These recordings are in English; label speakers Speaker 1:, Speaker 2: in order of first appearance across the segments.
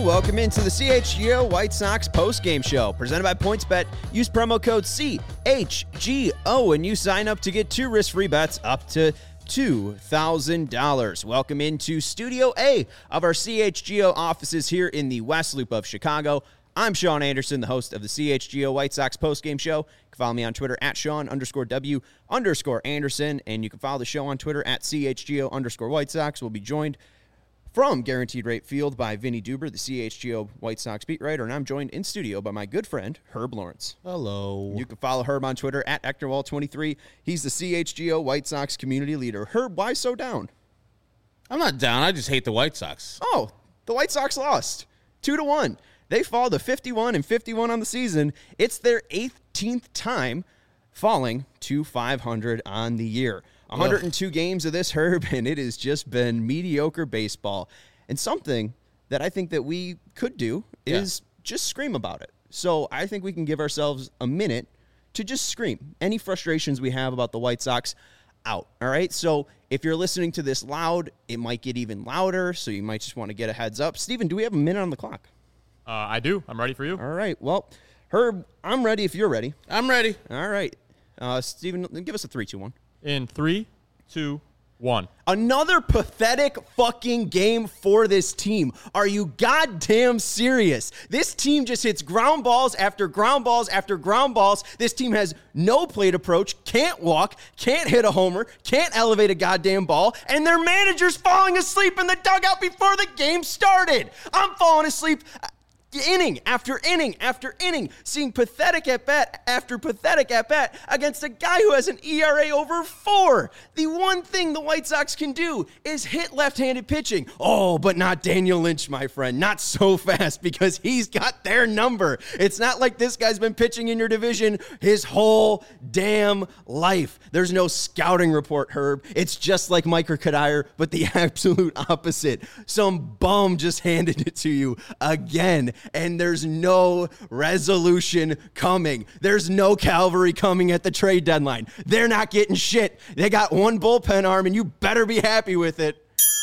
Speaker 1: Welcome into the CHGO White Sox postgame show presented by PointsBet. Use promo code CHGO and you sign up to get 2 risk-free bets up to $2,000. Welcome into Studio A of our CHGO offices here in the West Loop of Chicago. I'm Sean Anderson, the host of the CHGO White Sox postgame show. You can follow me on Twitter at Sean_W_Anderson, and you can follow the show on Twitter at CHGO_White Sox. We'll be joined from Guaranteed Rate Field by Vinny Duber, the CHGO White Sox beat writer, and I'm joined in studio by my good friend, Herb Lawrence.
Speaker 2: Hello.
Speaker 1: You can follow Herb on Twitter at Ectorwall23. He's the CHGO White Sox community leader. Herb, why so down?
Speaker 2: I'm not down. I just hate the White Sox.
Speaker 1: Oh, the White Sox lost 2-1. They fall to 51-51 on the season. It's their 18th time falling to 500 on the year. 102 games of this, Herb, and it has just been mediocre baseball. And something that I think that we could do is just scream about it. So I think we can give ourselves a minute to just scream any frustrations we have about the White Sox out. All right. So if you're listening to this loud, it might get even louder. So you might just want to get a heads up. Steven, do we have a minute on the clock?
Speaker 3: I do. I'm ready for you.
Speaker 1: All right. Well, Herb, I'm ready if you're ready.
Speaker 2: I'm ready.
Speaker 1: All right. Steven, give us a 3, 2, 1.
Speaker 3: In 3, 2, 1.
Speaker 1: Another pathetic fucking game for this team. Are you goddamn serious? This team just hits ground balls after ground balls after ground balls. This team has no plate approach, can't walk, can't hit a homer, can't elevate a goddamn ball, and their manager's falling asleep in the dugout before the game started. I'm falling asleep inning after inning after inning, seeing pathetic at-bat after pathetic at-bat against a guy who has an ERA over 4. The one thing the White Sox can do is hit left-handed pitching. Oh, but not Daniel Lynch, my friend. Not so fast, because he's got their number. It's not like this guy's been pitching in your division his whole damn life. There's no scouting report, Herb. It's just like Mike Kadire, but the absolute opposite. Some bum just handed it to you again. And there's no resolution coming. There's no cavalry coming at the trade deadline. They're not getting shit. They got one bullpen arm, and you better be happy with it.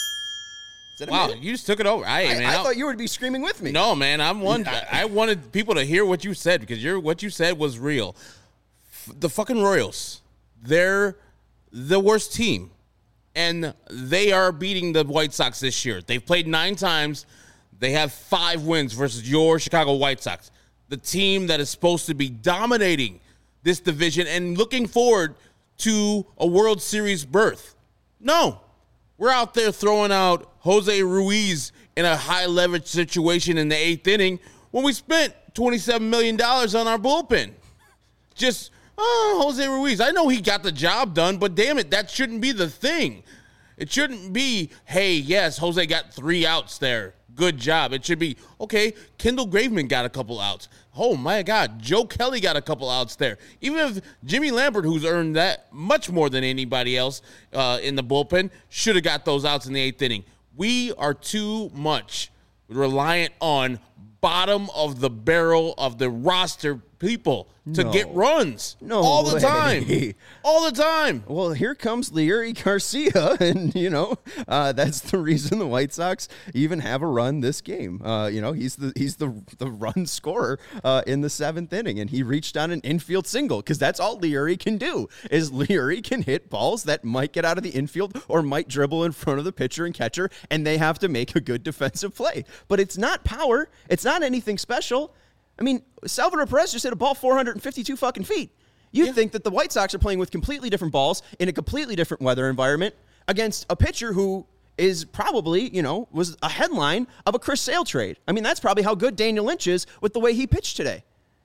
Speaker 2: Wow, you just took it over.
Speaker 1: I thought you would be screaming with me.
Speaker 2: No, man, I wanted people to hear what you said, because what you said was real. The fucking Royals, they're the worst team, and they are beating the White Sox this year. They've played 9 times. They have 5 wins versus your Chicago White Sox, the team that is supposed to be dominating this division and looking forward to a World Series berth. No, we're out there throwing out Jose Ruiz in a high-leverage situation in the 8th inning when we spent $27 million on our bullpen. Just, Jose Ruiz. I know he got the job done, but damn it, that shouldn't be the thing. It shouldn't be, hey, yes, Jose got 3 outs there. Good job. It should be, okay, Kendall Graveman got a couple outs. Oh, my God. Joe Kelly got a couple outs there. Even if Jimmy Lambert, who's earned that much more than anybody else in the bullpen, should have got those outs in the 8th inning. We are too much reliant on bottom of the barrel of the roster people to get runs all the time. All the time.
Speaker 1: Well, here comes Leury Garcia, and, that's the reason the White Sox even have a run this game. He's the run scorer in the 7th inning, and he reached on an infield single, because that's all Leury can do, is Leury can hit balls that might get out of the infield or might dribble in front of the pitcher and catcher, and they have to make a good defensive play. But it's not power. It's not anything special. I mean, Salvador Perez just hit a ball 452 fucking feet. You'd think that the White Sox are playing with completely different balls in a completely different weather environment against a pitcher who is probably, was a headline of a Chris Sale trade. I mean, that's probably how good Daniel Lynch is with the way he pitched today.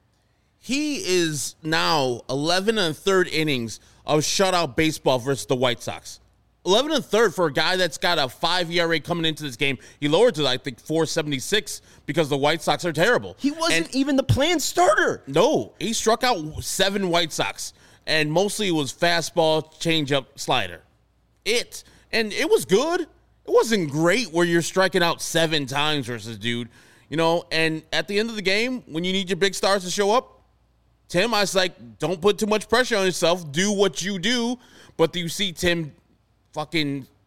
Speaker 2: He is now 11 1/3 innings of shutout baseball versus the White Sox. 11 1/3 for a guy that's got a 5 ERA coming into this game. He lowered to, I think, 4.76 because the White Sox are terrible.
Speaker 1: He wasn't even the planned starter.
Speaker 2: No, he struck out 7 White Sox, and mostly it was fastball, changeup, slider. And it was good. It wasn't great where you're striking out 7 times versus dude, and at the end of the game, when you need your big stars to show up, Tim, I was like, don't put too much pressure on yourself. Do what you do. But you see Tim fucking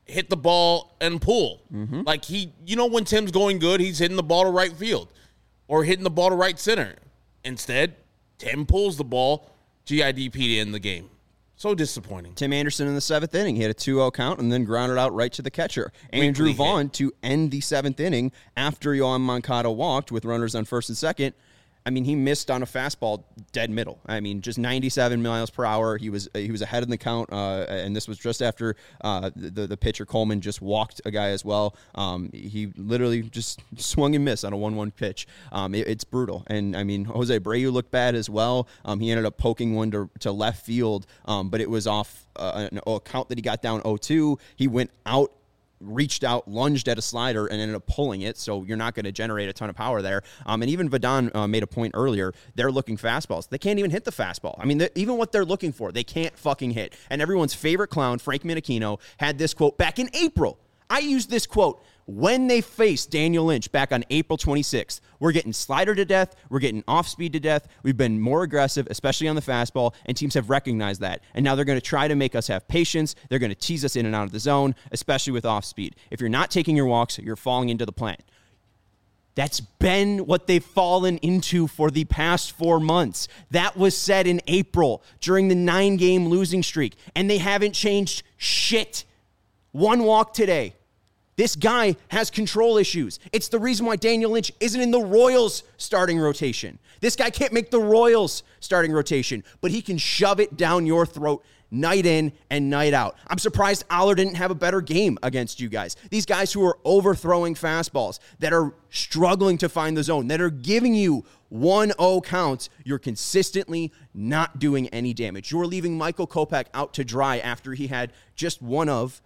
Speaker 2: hit the ball and pull. Like when Tim's going good, he's hitting the ball to right field or hitting the ball to right center. Instead, Tim pulls the ball, GIDP to end the game. So disappointing.
Speaker 1: Tim Anderson in the 7th inning, he had a 2-0 count and then grounded out right to the catcher. Andrew Vaughn to end the 7th inning after Yoan Moncada walked with runners on first and second. I mean, he missed on a fastball dead middle. I mean, just 97 miles per hour. He was ahead in the count, and this was just after the pitcher Coleman just walked a guy as well. He literally just swung and missed on a 1-1 pitch. It's brutal. And, I mean, Jose Abreu looked bad as well. He ended up poking one to left field, but it was off a count that he got down 0-2. He went out, reached out, lunged at a slider, and ended up pulling it, so you're not going to generate a ton of power there. And even Vadon made a point earlier. They're looking fastballs. They can't even hit the fastball. I mean, even what they're looking for, they can't fucking hit. And everyone's favorite clown, Frank Minakino, had this quote back in April. I used this quote when they faced Daniel Lynch back on April 26th. We're getting slider to death. We're getting off speed to death. We've been more aggressive, especially on the fastball, and teams have recognized that. And now they're going to try to make us have patience. They're going to tease us in and out of the zone, especially with off speed. If you're not taking your walks, you're falling into the plan. That's been what they've fallen into for the past 4 months. That was said in April during the 9-game losing streak, and they haven't changed shit. 1 walk today. This guy has control issues. It's the reason why Daniel Lynch isn't in the Royals starting rotation. This guy can't make the Royals starting rotation, but he can shove it down your throat night in and night out. I'm surprised Aller didn't have a better game against you guys. These guys who are overthrowing fastballs, that are struggling to find the zone, that are giving you 1-0 counts, you're consistently not doing any damage. You're leaving Michael Kopech out to dry after he had just one of,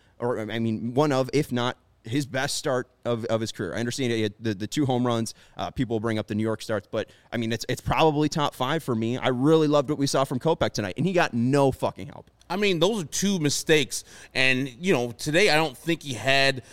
Speaker 1: if not his best start of his career. I understand he had the 2 home runs. People bring up the New York starts, but I mean, it's probably top 5 for me. I really loved what we saw from Kopech tonight, and he got no fucking help.
Speaker 2: I mean, those are 2 mistakes, and today I don't think he had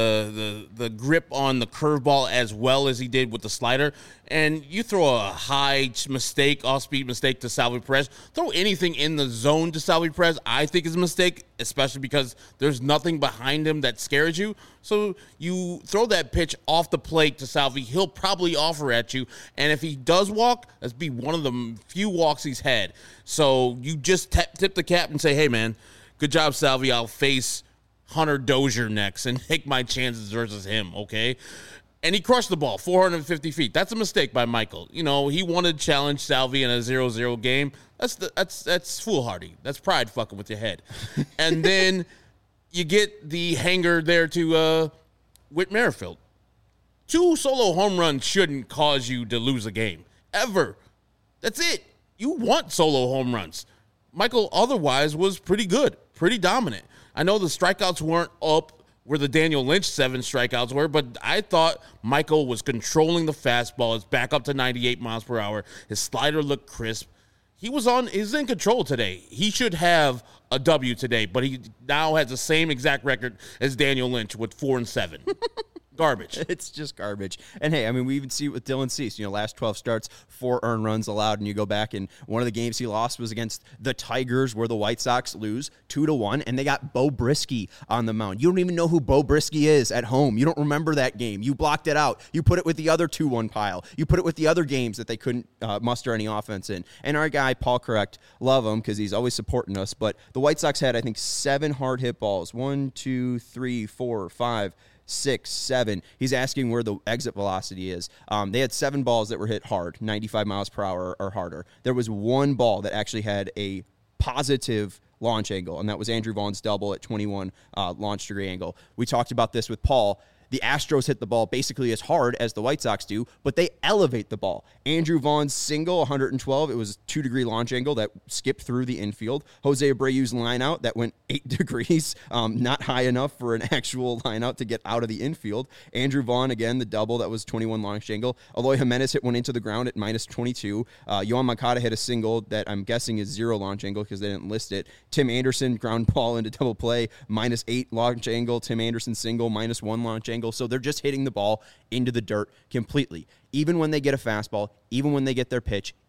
Speaker 2: the grip on the curveball as well as he did with the slider. And you throw a high mistake, off-speed mistake to Salvy Perez, throw anything in the zone to Salvy Perez, I think is a mistake, especially because there's nothing behind him that scares you. So you throw that pitch off the plate to Salvy, he'll probably offer at you. And if he does walk, that's be one of the few walks he's had. So you just tip the cap and say, hey, man, good job, Salvy. I'll face Hunter Dozier next and take my chances versus him, okay? And he crushed the ball, 450 feet. That's a mistake by Michael. He wanted to challenge Salvy in a 0-0 game. That's foolhardy. That's pride fucking with your head. And then you get the hanger there to Whit Merrifield. 2 solo home runs shouldn't cause you to lose a game, ever. That's it. You want solo home runs. Michael otherwise was pretty good, pretty dominant. I know the strikeouts weren't up where the Daniel Lynch 7 strikeouts were, but I thought Michael was controlling the fastball. It's back up to 98 miles per hour. His slider looked crisp. He's in control today. He should have a W today, but he now has the same exact record as Daniel Lynch with 4-7. Garbage.
Speaker 1: It's just garbage. And hey, I mean, we even see it with Dylan Cease. Last 12 starts, 4 earned runs allowed, and you go back, and one of the games he lost was against the Tigers, where the White Sox lose 2-1, and they got Bo Brisky on the mound. You don't even know who Bo Brisky is at home. You don't remember that game. You blocked it out. You put it with the other 2-1 pile. You put it with the other games that they couldn't muster any offense in. And our guy, Paul Correct, love him because he's always supporting us, but the White Sox had, I think, 7 hard hit balls. 1, 2, 3, 4, 5, 6, 7. He's asking where the exit velocity is. They had 7 balls that were hit hard, 95 miles per hour or harder. There was 1 ball that actually had a positive launch angle, and that was Andrew Vaughn's double at 21 launch degree angle. We talked about this with Paul. The Astros hit the ball basically as hard as the White Sox do, but they elevate the ball. Andrew Vaughn's single, 112, it was a 2-degree launch angle that skipped through the infield. Jose Abreu's line out that went 8 degrees, not high enough for an actual line out to get out of the infield. Andrew Vaughn, again, the double that was 21 launch angle. Eloy Jimenez hit one into the ground at -22. Yoan Moncada hit a single that I'm guessing is 0 launch angle because they didn't list it. Tim Anderson, ground ball into double play, -8 launch angle. Tim Anderson single, -1 launch angle. So they're just hitting the ball into the dirt completely. Even when they get a fastball, even when they get their pitch,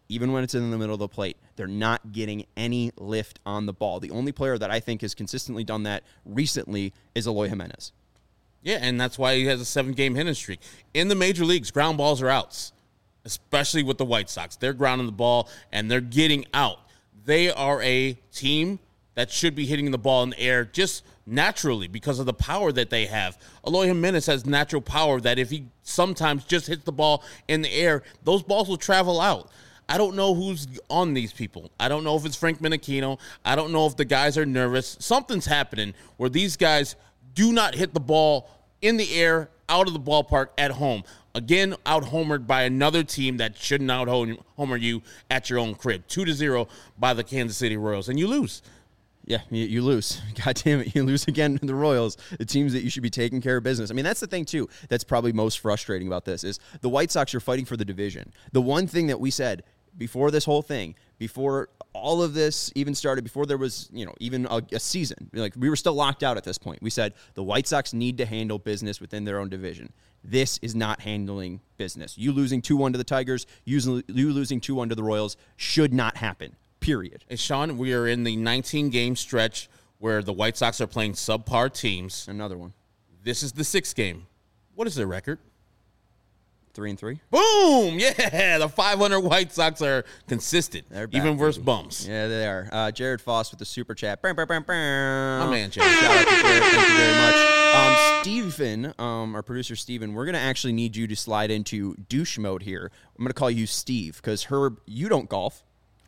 Speaker 1: even when it's in the middle of the plate, they're not getting any lift on the ball. The only player that I think has consistently done that recently is Eloy Jimenez.
Speaker 2: Yeah, and that's why he has a 7-game hitting streak. In the major leagues, ground balls are outs, especially with the White Sox. They're grounding the ball, and they're getting out. They are a team that should be hitting the ball in the air just naturally because of the power that they have. Eloy Jimenez has natural power that if he sometimes just hits the ball in the air, those balls will travel out. I don't know who's on these people. I don't know if it's Frank Menechino. I don't know if the guys are nervous. Something's happening where these guys do not hit the ball in the air out of the ballpark at home. Again, out-homered by another team that shouldn't out-homer you at your own crib. 2-0 by the Kansas City Royals, and you lose.
Speaker 1: Yeah, you lose. God damn it, you lose again to the Royals, the teams that you should be taking care of business. I mean, that's the thing, too, that's probably most frustrating about this is the White Sox are fighting for the division. The one thing that we said before this whole thing, before all of this even started, before there was, even a season, like we were still locked out at this point. We said the White Sox need to handle business within their own division. This is not handling business. You losing 2-1 to the Tigers, you losing 2-1 to the Royals should not happen. Period.
Speaker 2: And Sean, we are in the 19-game stretch where the White Sox are playing subpar teams.
Speaker 1: Another one.
Speaker 2: This is the 6th game. What is their record?
Speaker 1: 3-3.
Speaker 2: Boom! Yeah, the 500 White Sox are consistent,
Speaker 1: They're back,
Speaker 2: even versus
Speaker 1: baby.
Speaker 2: bums.
Speaker 1: Yeah, they are. Jared Foss with the super chat. My
Speaker 2: My man, Jared.
Speaker 1: Shout out to Jared. Thank you very much. Steven, our producer Steven, we're going to actually need you to slide into douche mode here. I'm going to call you Steve because Herb, you don't golf.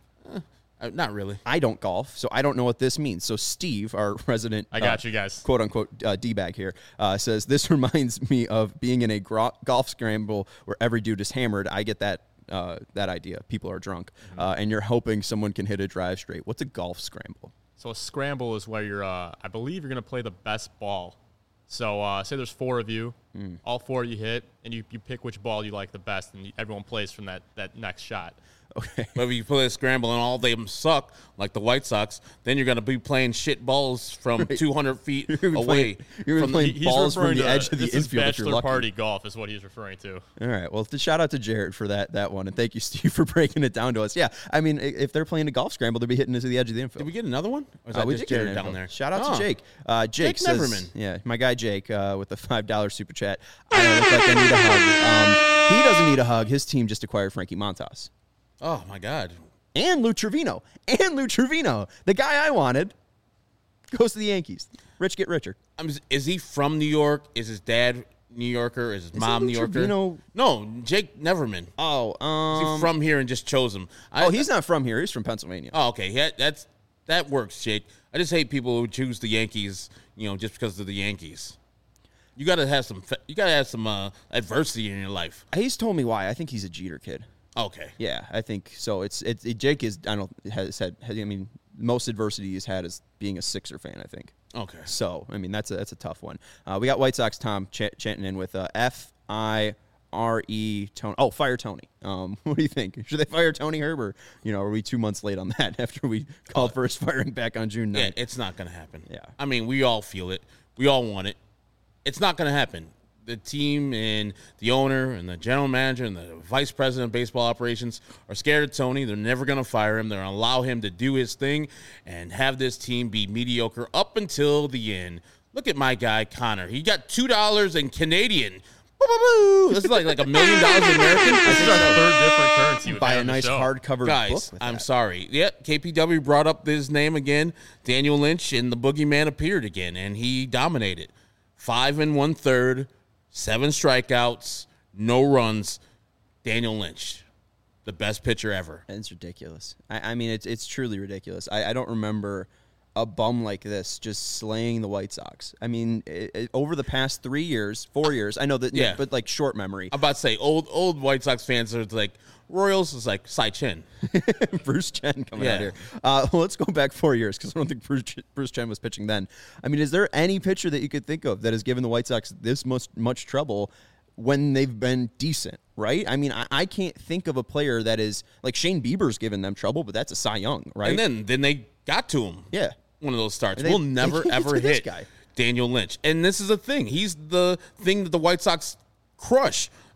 Speaker 2: Not really.
Speaker 1: I don't golf, so I don't know what this means. So Steve, our resident,
Speaker 3: I got you guys.
Speaker 1: quote-unquote D-bag here, says, this reminds me of being in a golf scramble where every dude is hammered. I get that idea. People are drunk, and you're hoping someone can hit a drive straight. What's a golf scramble?
Speaker 3: So a scramble is where you're, I believe you're going to play the best ball. So say there's 4 of you, all 4 of you hit, and you pick which ball you like the best, and everyone plays from that next shot.
Speaker 1: Okay.
Speaker 2: But if you play a scramble and all of them suck, like the White Sox, then you're going to be playing shit balls from 200 feet away.
Speaker 1: You're playing
Speaker 3: He's
Speaker 1: balls from
Speaker 3: referring
Speaker 1: the
Speaker 3: to
Speaker 1: edge of the
Speaker 3: this is
Speaker 1: infield if you're
Speaker 3: bachelor
Speaker 1: lucky.
Speaker 3: party golf is what he's referring to.
Speaker 1: All right. Well, shout out to Jared for that one, and thank you, Steve, for breaking it down to us. Yeah, I mean, if they're playing a golf scramble, they'll be hitting into the edge of the infield.
Speaker 2: Did we get another one? Or is that
Speaker 1: We
Speaker 2: just
Speaker 1: did get
Speaker 2: Jared
Speaker 1: an
Speaker 2: down
Speaker 1: info.
Speaker 2: there?
Speaker 1: Shout out to Jake. Jake says,
Speaker 2: Neverman.
Speaker 1: Yeah, my guy Jake with the $5 super chat. I don't look like I need a hug. He doesn't need a hug. His team just acquired Frankie Montas.
Speaker 2: Oh, my God.
Speaker 1: And Lou Trevino. The guy I wanted goes to the Yankees. Rich get richer.
Speaker 2: Is he from New York? Is his dad New Yorker? Is his mom
Speaker 1: Lou
Speaker 2: New Yorker?
Speaker 1: Trevino?
Speaker 2: No, Jake Neverman.
Speaker 1: Oh,
Speaker 2: Is he from here and just chose him?
Speaker 1: he's not from here. He's from Pennsylvania.
Speaker 2: Oh, okay. Yeah, that works, Jake. I just hate people who choose the Yankees, just because of the Yankees. You gotta have some. Adversity in your life.
Speaker 1: He's told me why. I think he's a Jeter kid.
Speaker 2: Okay.
Speaker 1: Yeah, I think so. It's Jake is most adversity he's had is being a Sixer fan, I think.
Speaker 2: Okay.
Speaker 1: So I mean that's a tough one. We got White Sox Tom chanting in with FIRE Tony. Oh, fire Tony. What do you think? Should they fire Tony Herb, or are we 2 months late on that after we called for his firing back on June 9th?
Speaker 2: Yeah, it's not gonna happen.
Speaker 1: Yeah.
Speaker 2: I mean, we all feel it. We all want it. It's not gonna happen. The team and the owner and the general manager and the vice president of baseball operations are scared of Tony. They're never going to fire him. They're going to allow him to do his thing and have this team be mediocre up until the end. Look at my guy, Connor. He got $2 in Canadian. This is like $1 million American.
Speaker 3: This is our 3rd different currency. we've
Speaker 1: Buy
Speaker 3: had
Speaker 1: a
Speaker 3: on the
Speaker 1: nice
Speaker 3: show.
Speaker 1: hardcover book
Speaker 2: Guys,
Speaker 1: with
Speaker 2: I'm
Speaker 1: that.
Speaker 2: sorry. Yeah, KPW brought up his name again. Daniel Lynch, and the boogeyman appeared again, and he dominated. 5 1/3, 7 strikeouts, no runs. Daniel Lynch, the best pitcher ever.
Speaker 1: It's ridiculous. I mean, it's truly ridiculous. I don't remember a bum like this just slaying the White Sox. I mean, over the past 4 years, I know that,
Speaker 2: Yeah.
Speaker 1: but like short memory.
Speaker 2: I'm about to say, old White Sox fans are like, Royals is like Cy Chin.
Speaker 1: Bruce Chen coming out
Speaker 2: Yeah.
Speaker 1: here. Well, let's go back 4 years because I don't think Bruce Chen was pitching then. I mean, is there any pitcher that you could think of that has given the White Sox this much trouble when they've been decent, right? I mean, I can't think of a player that is like Shane Bieber's given them trouble, but that's a Cy Young, right?
Speaker 2: And then they got to him.
Speaker 1: Yeah.
Speaker 2: One of those starts.
Speaker 1: And
Speaker 2: We'll
Speaker 1: they
Speaker 2: never,
Speaker 1: can't
Speaker 2: ever
Speaker 1: get to this
Speaker 2: hit
Speaker 1: guy.
Speaker 2: Daniel Lynch. And this is the thing. He's the thing that the White Sox crush.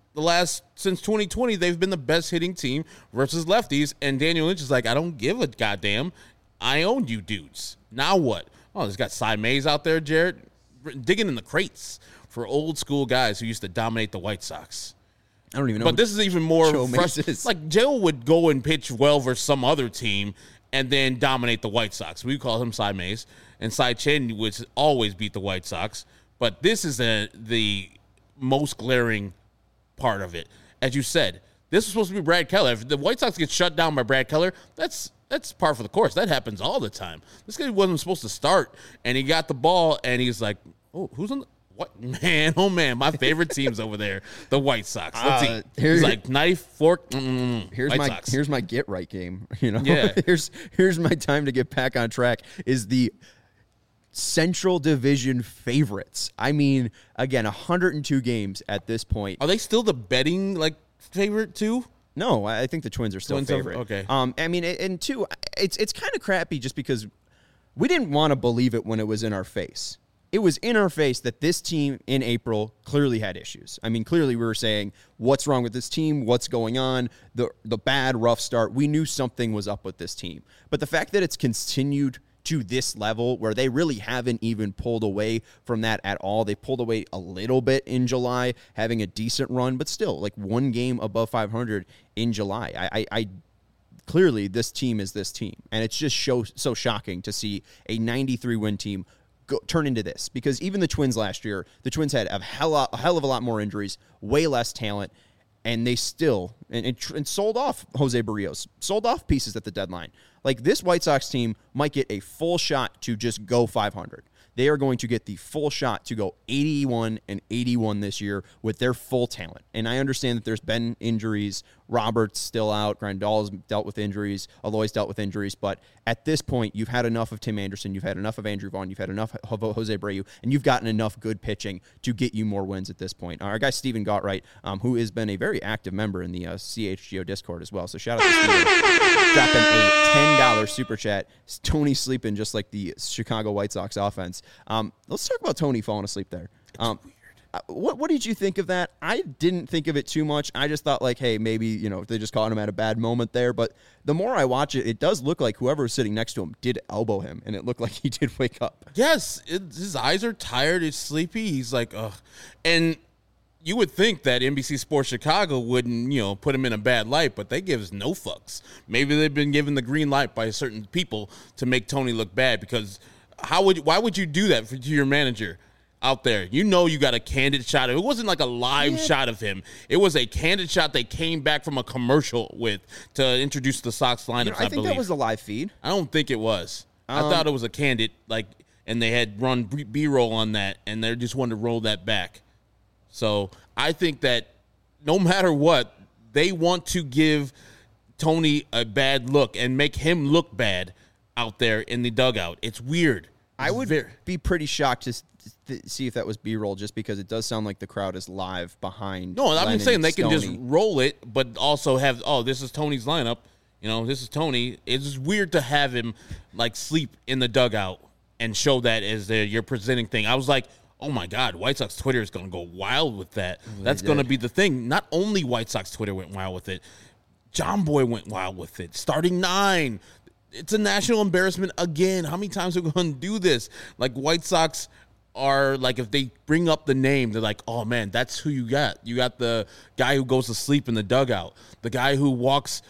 Speaker 2: since 2020, they've been the best hitting team versus lefties. And Daniel Lynch is like, I don't give a goddamn. I owned you dudes. Now what? Oh, there's got Cy Mays out there, Jared, digging in the crates for old school guys who used to dominate the White Sox.
Speaker 1: I don't even know.
Speaker 2: But this is even more frustrating.
Speaker 1: Is.
Speaker 2: Like, Joe would go and pitch well versus some other team and then dominate the White Sox. We call him Cy Mays. And Cy Chen would always beat the White Sox. But this is the most glaring part of it. As you said, this was supposed to be Brad Keller. If the White Sox get shut down by Brad Keller, that's par for the course. That happens all the time. This guy wasn't supposed to start, and he got the ball, and he's like, oh, who's on the... What man? Oh man, my favorite team's over there, the White Sox. Let's see. He's like knife, fork.
Speaker 1: Here's my get right game. You know,
Speaker 2: yeah.
Speaker 1: here's my time to get back on track. Is the Central Division favorites? I mean, again, 102 games at this point.
Speaker 2: Are they still the betting like favorite too?
Speaker 1: No, I think the Twins are still favorite.
Speaker 2: Okay.
Speaker 1: I mean, and two, it's kind of crappy just because we didn't want to believe it when it was in our face. It was in our face that this team in April clearly had issues. I mean, clearly we were saying, what's wrong with this team? What's going on? The bad, rough start. We knew something was up with this team. But the fact that it's continued to this level where they really haven't even pulled away from that at all. They pulled away a little bit in July, having a decent run, but still like one game above 500 in July. I clearly this team is this team. And it's just so shocking to see a 93-win team turn into this, because even the Twins last year, the Twins had a hell of a lot more injuries, way less talent, and they still and sold off Jose Barrios, sold off pieces at the deadline. Like, this White Sox team might get a full shot to just go 500. They are going to get the full shot to go 81-81 this year with their full talent. And I understand that there's been injuries. Robert's still out. Grandal's dealt with injuries. Aloy's dealt with injuries. But at this point, you've had enough of Tim Anderson. You've had enough of Andrew Vaughn. You've had enough of Jose Abreu. And you've gotten enough good pitching to get you more wins at this point. Our guy Steven Gottright, who has been a very active member in the CHGO Discord as well. So shout out to Steven. Dropping a $10 super chat. Tony sleeping just like the Chicago White Sox offense. Let's talk about Tony falling asleep there.
Speaker 2: It's weird.
Speaker 1: What did you think of that? I didn't think of it too much. I just thought, like, hey, maybe, they just caught him at a bad moment there. But the more I watch it, it does look like whoever was sitting next to him did elbow him, and it looked like he did wake up.
Speaker 2: Yes, his eyes are tired. He's sleepy. He's like, ugh. And you would think that NBC Sports Chicago wouldn't, put him in a bad light, but they give us no fucks. Maybe they've been given the green light by certain people to make Tony look bad, because why would you do that to your manager out there? You got a candid shot. It wasn't like a live shot of him. It was a candid shot they came back from a commercial with to introduce the Sox lineup.
Speaker 1: I think that was a live feed.
Speaker 2: I don't think it was. I thought it was a candid, and they had run B-roll on that, and they just wanted to roll that back. So I think that no matter what, they want to give Tony a bad look and make him look bad out there in the dugout. It's weird.
Speaker 1: I would be pretty shocked to see if that was B-roll, just because it does sound like the crowd is live behind.
Speaker 2: No, I'm
Speaker 1: Lennon,
Speaker 2: just saying they
Speaker 1: Stoney.
Speaker 2: can just roll it, but also have, this is Tony's lineup. This is Tony. It's just weird to have him sleep in the dugout and show that as your presenting thing. I was like, oh my God, White Sox Twitter is going to go wild with that. That's going to be the thing. Not only White Sox Twitter went wild with it, John Boy went wild with it. Starting 9. It's a national embarrassment again. How many times are we going to do this? White Sox are if they bring up the name, they're like, oh man, that's who you got. You got the guy who goes to sleep in the dugout, the guy who walks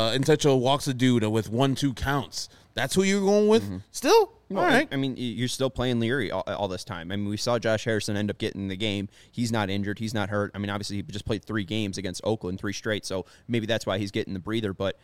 Speaker 2: walks a dude with 1-2 counts. That's who you're going with. Still, all right.
Speaker 1: I mean, you're still playing Leary all this time. I mean, we saw Josh Harrison end up getting the game. He's not injured. He's not hurt. I mean, obviously he just played 3 games against Oakland, 3 straight. So maybe that's why he's getting the breather. But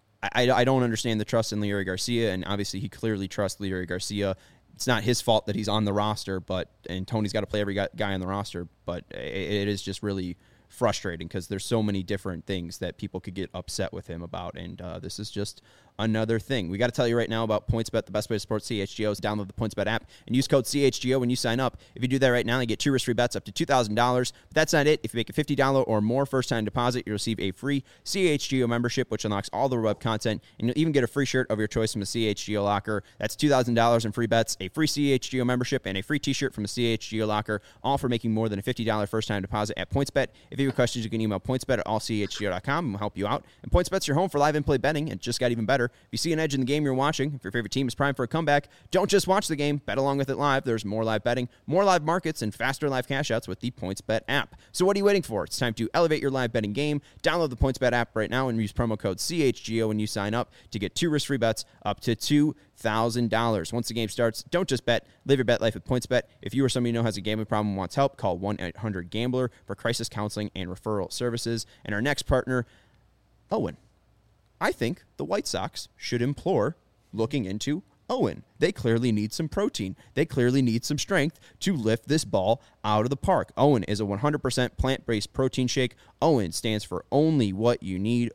Speaker 1: I don't understand the trust in Leury Garcia, and obviously he clearly trusts Leury Garcia. It's not his fault that he's on the roster, and Tony's got to play every guy on the roster, but it is just really frustrating because there's so many different things that people could get upset with him about, and this is just another thing. We got to tell you right now about PointsBet, the best way to support CHGO is download the PointsBet app and use code CHGO when you sign up. If you do that right now, you get 2 risk-free bets up to $2,000. But that's not it. If you make a $50 or more first-time deposit, you'll receive a free CHGO membership, which unlocks all the web content, and you'll even get a free shirt of your choice from the CHGO locker. That's $2,000 in free bets, a free CHGO membership, and a free t-shirt from the CHGO locker, all for making more than a $50 first-time deposit at PointsBet. If you have questions, you can email pointsbet@allchgo.com, and we'll help you out. And PointsBet's your home for live in-play betting, and it just got even better. If you see an edge in the game you're watching, if your favorite team is primed for a comeback, don't just watch the game, bet along with it live. There's more live betting, more live markets, and faster live cash-outs with the PointsBet app. So what are you waiting for? It's time to elevate your live betting game. Download the PointsBet app right now and use promo code CHGO when you sign up to get 2 risk-free bets up to $2,000. Once the game starts, don't just bet. Live your bet life with PointsBet. If you or somebody you know has a gambling problem and wants help, call 1-800-GAMBLER for crisis counseling and referral services. And our next partner, Owen. I think the White Sox should implore looking into Owen. They clearly need some protein. They clearly need some strength to lift this ball out of the park. Owen is a 100% plant-based protein shake. Owen stands for only what you need.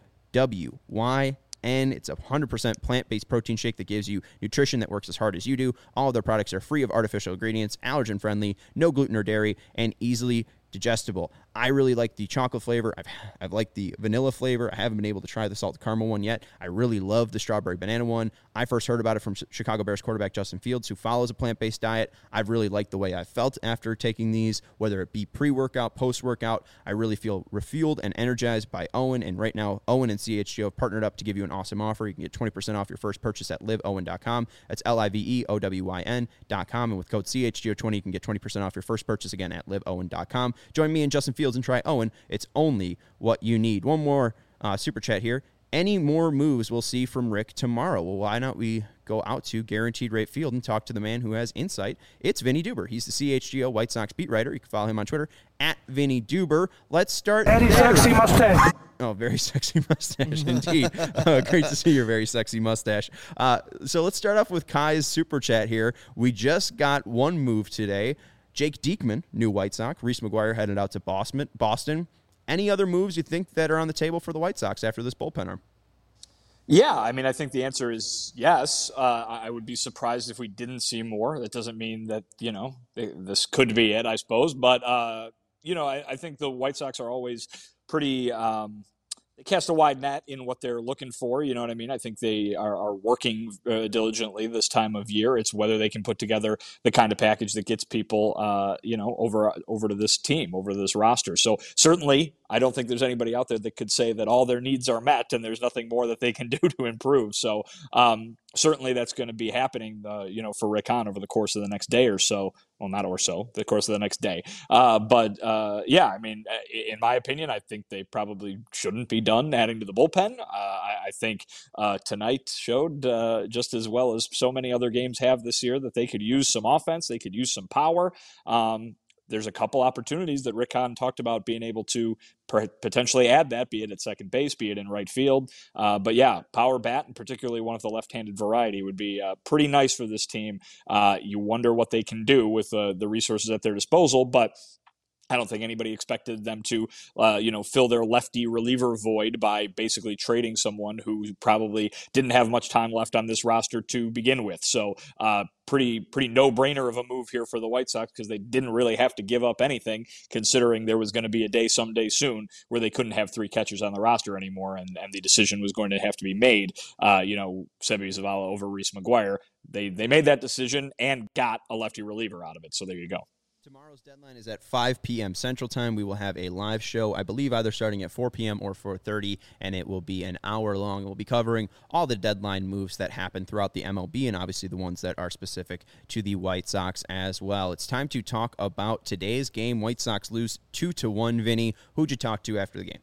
Speaker 1: OWYN. It's a 100% plant-based protein shake that gives you nutrition that works as hard as you do. All of their products are free of artificial ingredients, allergen-friendly, no gluten or dairy, and easily digestible. I really like the chocolate flavor. I've liked the vanilla flavor. I haven't been able to try the salt caramel one yet. I really love the strawberry banana one. I first heard about it from Chicago Bears quarterback Justin Fields, who follows a plant-based diet. I've really liked the way I felt after taking these, whether it be pre-workout, post-workout. I really feel refueled and energized by Owen, and right now, Owen and CHGO have partnered up to give you an awesome offer. You can get 20% off your first purchase at liveowen.com. That's LIVEOWYN.com, and with code CHGO20, you can get 20% off your first purchase again at liveowen.com. Join me and Justin Fields and try Owen. It's only what you need. One more super chat here. Any more moves we'll see from Rick tomorrow? Well, why not we go out to Guaranteed Rate Field and talk to the man who has insight. It's Vinny Duber. He's the CHGO White Sox beat writer. You can follow him on Twitter at Vinny Duber. Let's start.
Speaker 4: Very sexy mustache.
Speaker 1: Oh, very sexy mustache indeed. Great to see your very sexy mustache. So let's start off with Kai's super chat here. We just got one move today. Jake Diekman, new White Sox. Reese McGuire headed out to Boston. Any other moves you think that are on the table for the White Sox after this bullpen arm?
Speaker 5: Yeah, I mean, I think the answer is yes. I would be surprised if we didn't see more. That doesn't mean that, this could be it, I suppose. But, I think the White Sox are always pretty they cast a wide net in what they're looking for. You know what I mean? I think they are working diligently this time of year. It's whether they can put together the kind of package that gets people, over to this team, over to this roster. So certainly, I don't think there's anybody out there that could say that all their needs are met and there's nothing more that they can do to improve. So certainly that's going to be happening, for Rick Hahn over the course of the next day or so. Well, not or so, the course of the next day. I mean, in my opinion, I think they probably shouldn't be done adding to the bullpen. I think tonight showed just as well as so many other games have this year that they could use some offense. They could use some power. There's a couple opportunities that Rick Hahn talked about being able to potentially add that, be it at second base, be it in right field. But yeah, power bat, and particularly one of the left-handed variety, would be pretty nice for this team. You wonder what they can do with the resources at their disposal, but I don't think anybody expected them to, fill their lefty reliever void by basically trading someone who probably didn't have much time left on this roster to begin with. So pretty no-brainer of a move here for the White Sox, because they didn't really have to give up anything, considering there was going to be a day someday soon where they couldn't have 3 catchers on the roster anymore, and the decision was going to have to be made. Seby Zavala over Reese McGuire. They made that decision and got a lefty reliever out of it. So there you go.
Speaker 1: Tomorrow's deadline is at 5 p.m. Central Time. We will have a live show, I believe either starting at 4 p.m. or 4:30, and it will be an hour long. We'll be covering all the deadline moves that happen throughout the MLB, and obviously the ones that are specific to the White Sox as well. It's time to talk about today's game. White Sox lose 2-1. Vinny, who'd you talk to after the game?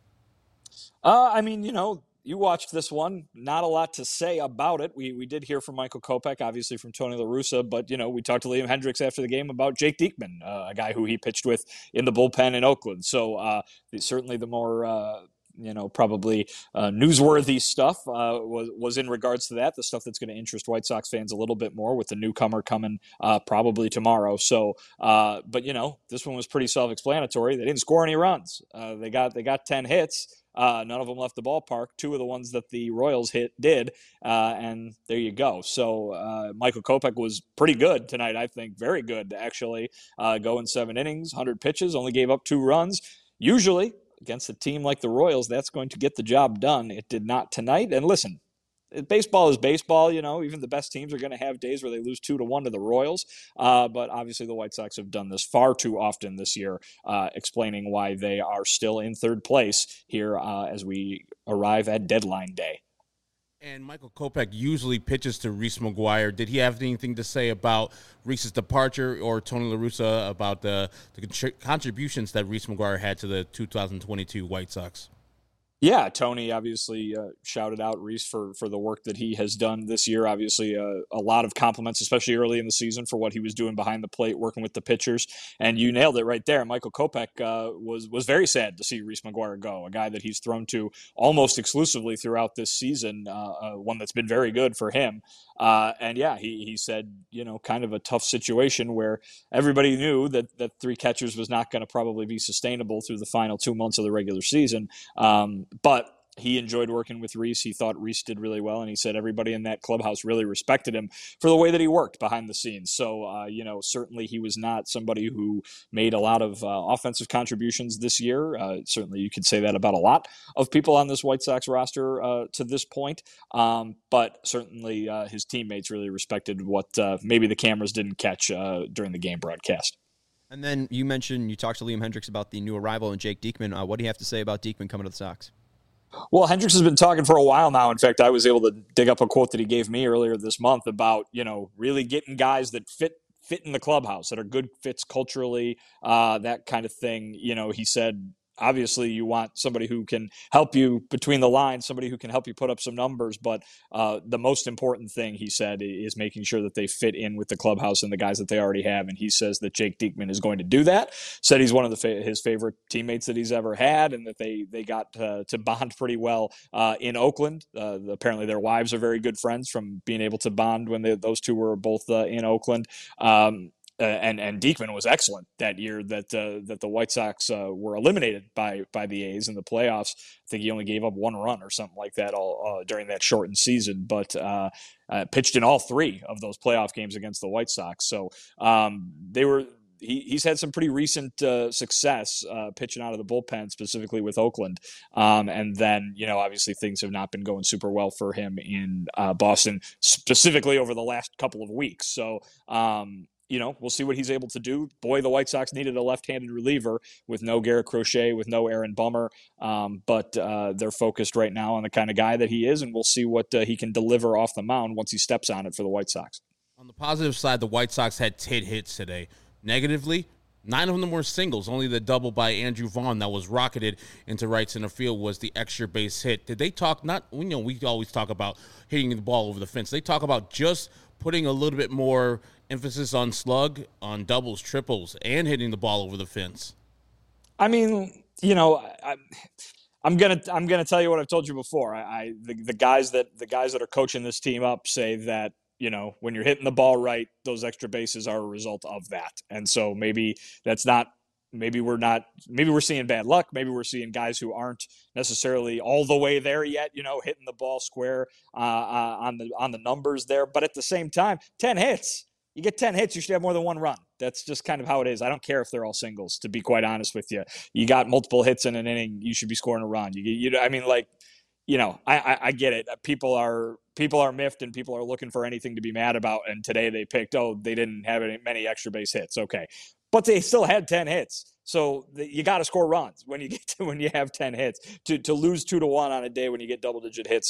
Speaker 5: You watched this one. Not a lot to say about it. We did hear from Michael Kopech, obviously from Tony La Russa, but, we talked to Liam Hendricks after the game about Jake Diekman, a guy who he pitched with in the bullpen in Oakland. So certainly the more probably newsworthy stuff was in regards to that, the stuff that's going to interest White Sox fans a little bit more with the newcomer coming probably tomorrow. So, but this one was pretty self-explanatory. They didn't score any runs. They got 10 hits. None of them left the ballpark. 2 of the ones that the Royals did, and there you go. So Michael Kopech was pretty good tonight, I think. Very good, actually. Going 7 innings, 100 pitches, only gave up 2 runs. Usually, against a team like the Royals, that's going to get the job done. It did not tonight. And listen, baseball is baseball. Even the best teams are going to have days where they lose 2-1 to the Royals. But obviously the White Sox have done this far too often this year, explaining why they are still in 3rd place here as we arrive at deadline day.
Speaker 2: And Michael Kopech usually pitches to Reese McGuire. Did he have anything to say about Reese's departure or Tony La Russa about the contributions that Reese McGuire had to the 2022 White Sox?
Speaker 5: Yeah, Tony obviously shouted out Reese for the work that he has done this year. Obviously, a lot of compliments, especially early in the season, for what he was doing behind the plate, working with the pitchers. And you nailed it right there. Michael Kopech was very sad to see Reese McGuire go, a guy that he's thrown to almost exclusively throughout this season, one that's been very good for him. And yeah, he said, kind of a tough situation where everybody knew that 3 catchers was not going to probably be sustainable through the final 2 months of the regular season. But he enjoyed working with Reese. He thought Reese did really well, and he said everybody in that clubhouse really respected him for the way that he worked behind the scenes. So, certainly he was not somebody who made a lot of offensive contributions this year. Certainly you could say that about a lot of people on this White Sox roster to this point. But certainly his teammates really respected what maybe the cameras didn't catch during the game broadcast.
Speaker 1: And then you talked to Liam Hendriks about the new arrival in Jake Diekman. What do you have to say about Diekman coming to the Sox?
Speaker 5: Well, Hendriks has been talking for a while now. In fact, I was able to dig up a quote that he gave me earlier this month about, really getting guys that fit in the clubhouse, that are good fits culturally, that kind of thing. He said, obviously you want somebody who can help you between the lines, somebody who can help you put up some numbers. But the most important thing, he said, is making sure that they fit in with the clubhouse and the guys that they already have. And he says that Jake Diekman is going to do that. Said he's one of his favorite teammates that he's ever had, and that they got to bond pretty well in Oakland. Apparently their wives are very good friends from being able to bond when those two were both in Oakland. And Diekman was excellent that year that the White Sox were eliminated by the A's in the playoffs. I think he only gave up 1 run or something like that all during that shortened season, but pitched in all 3 of those playoff games against the White Sox. So he's had some pretty recent success pitching out of the bullpen, specifically with Oakland. And then, obviously things have not been going super well for him in Boston, specifically over the last couple of weeks. So, we'll see what he's able to do. Boy, the White Sox needed a left-handed reliever with no Garrett Crochet, with no Aaron Bummer. But they're focused right now on the kind of guy that he is, and we'll see what he can deliver off the mound once he steps on it for the White Sox.
Speaker 2: On the positive side, the White Sox had 10 hits today. Negatively, 9 of them were singles. Only the double by Andrew Vaughn that was rocketed into right center field was the extra base hit. Did they talk, we always talk about hitting the ball over the fence. They talk about just putting a little bit more emphasis on slug, on doubles, triples, and hitting the ball over the fence.
Speaker 5: I mean, I'm gonna tell you what I've told you before. The guys that are coaching this team up say that, when you're hitting the ball right, those extra bases are a result of that. And so maybe we're seeing bad luck. Maybe we're seeing guys who aren't necessarily all the way there yet, hitting the ball square on the numbers there. But at the same time, 10 hits. You get 10 hits, you should have more than 1 run. That's just kind of how it is. I don't care if they're all singles, to be quite honest with you. You got multiple hits in an inning, you should be scoring a run. I get it. People are miffed and people are looking for anything to be mad about. And today they picked, they didn't have many extra base hits. Okay. But they still had 10 hits. So you got to score runs when you have 10 hits. To lose 2-1 on a day when you get double digit hits,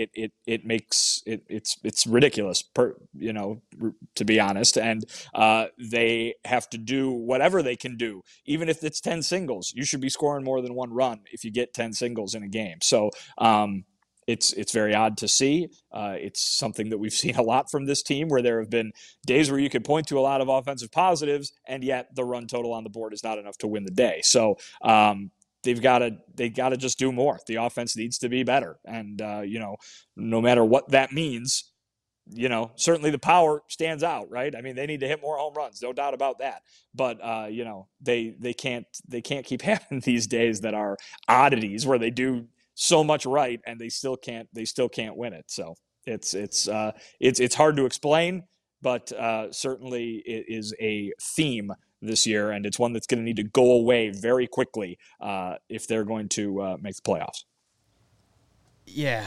Speaker 5: it's ridiculous, to be honest. And they have to do whatever they can do, even if it's 10 singles. You should be scoring more than 1 run if you get 10 singles in a game. So it's very odd to see. It's something that we've seen a lot from this team, where there have been days where you could point to a lot of offensive positives, and yet the run total on the board is not enough to win the day. So, they got to just do more. The offense needs to be better, and no matter what that means, certainly the power stands out, right? I mean, they need to hit more home runs, no doubt about that. But they can't keep having these days that are oddities where they do so much right and they still can't win it. So it's hard to explain, but certainly it is a theme this year, and it's one that's going to need to go away very quickly if they're going to make the playoffs.
Speaker 1: Yeah,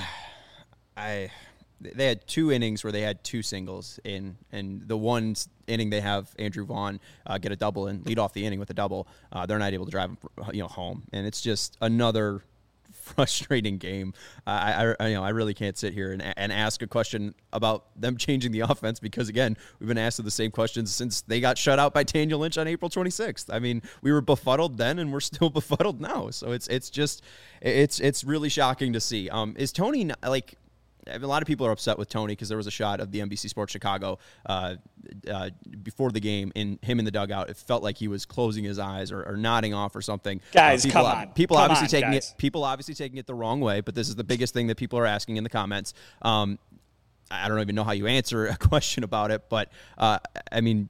Speaker 1: they had 2 innings where they had 2 singles in, and the one inning they have Andrew Vaughn get a double and lead off the inning with a double. They're not able to drive home, and it's just another frustrating game. I really can't sit here and ask a question about them changing the offense because, again, we've been asked the same questions since they got shut out by Daniel Lynch on April 26th. I mean, we were befuddled then and we're still befuddled now. So it's really shocking to see. Is Tony like? A lot of people are upset with Tony because there was a shot of the NBC Sports Chicago before the game in him in the dugout. It felt like he was closing his eyes or nodding off or something.
Speaker 5: Guys, come on.
Speaker 1: People obviously taking it the wrong way, but this is the biggest thing that people are asking in the comments. I don't even know how you answer a question about it, but I mean,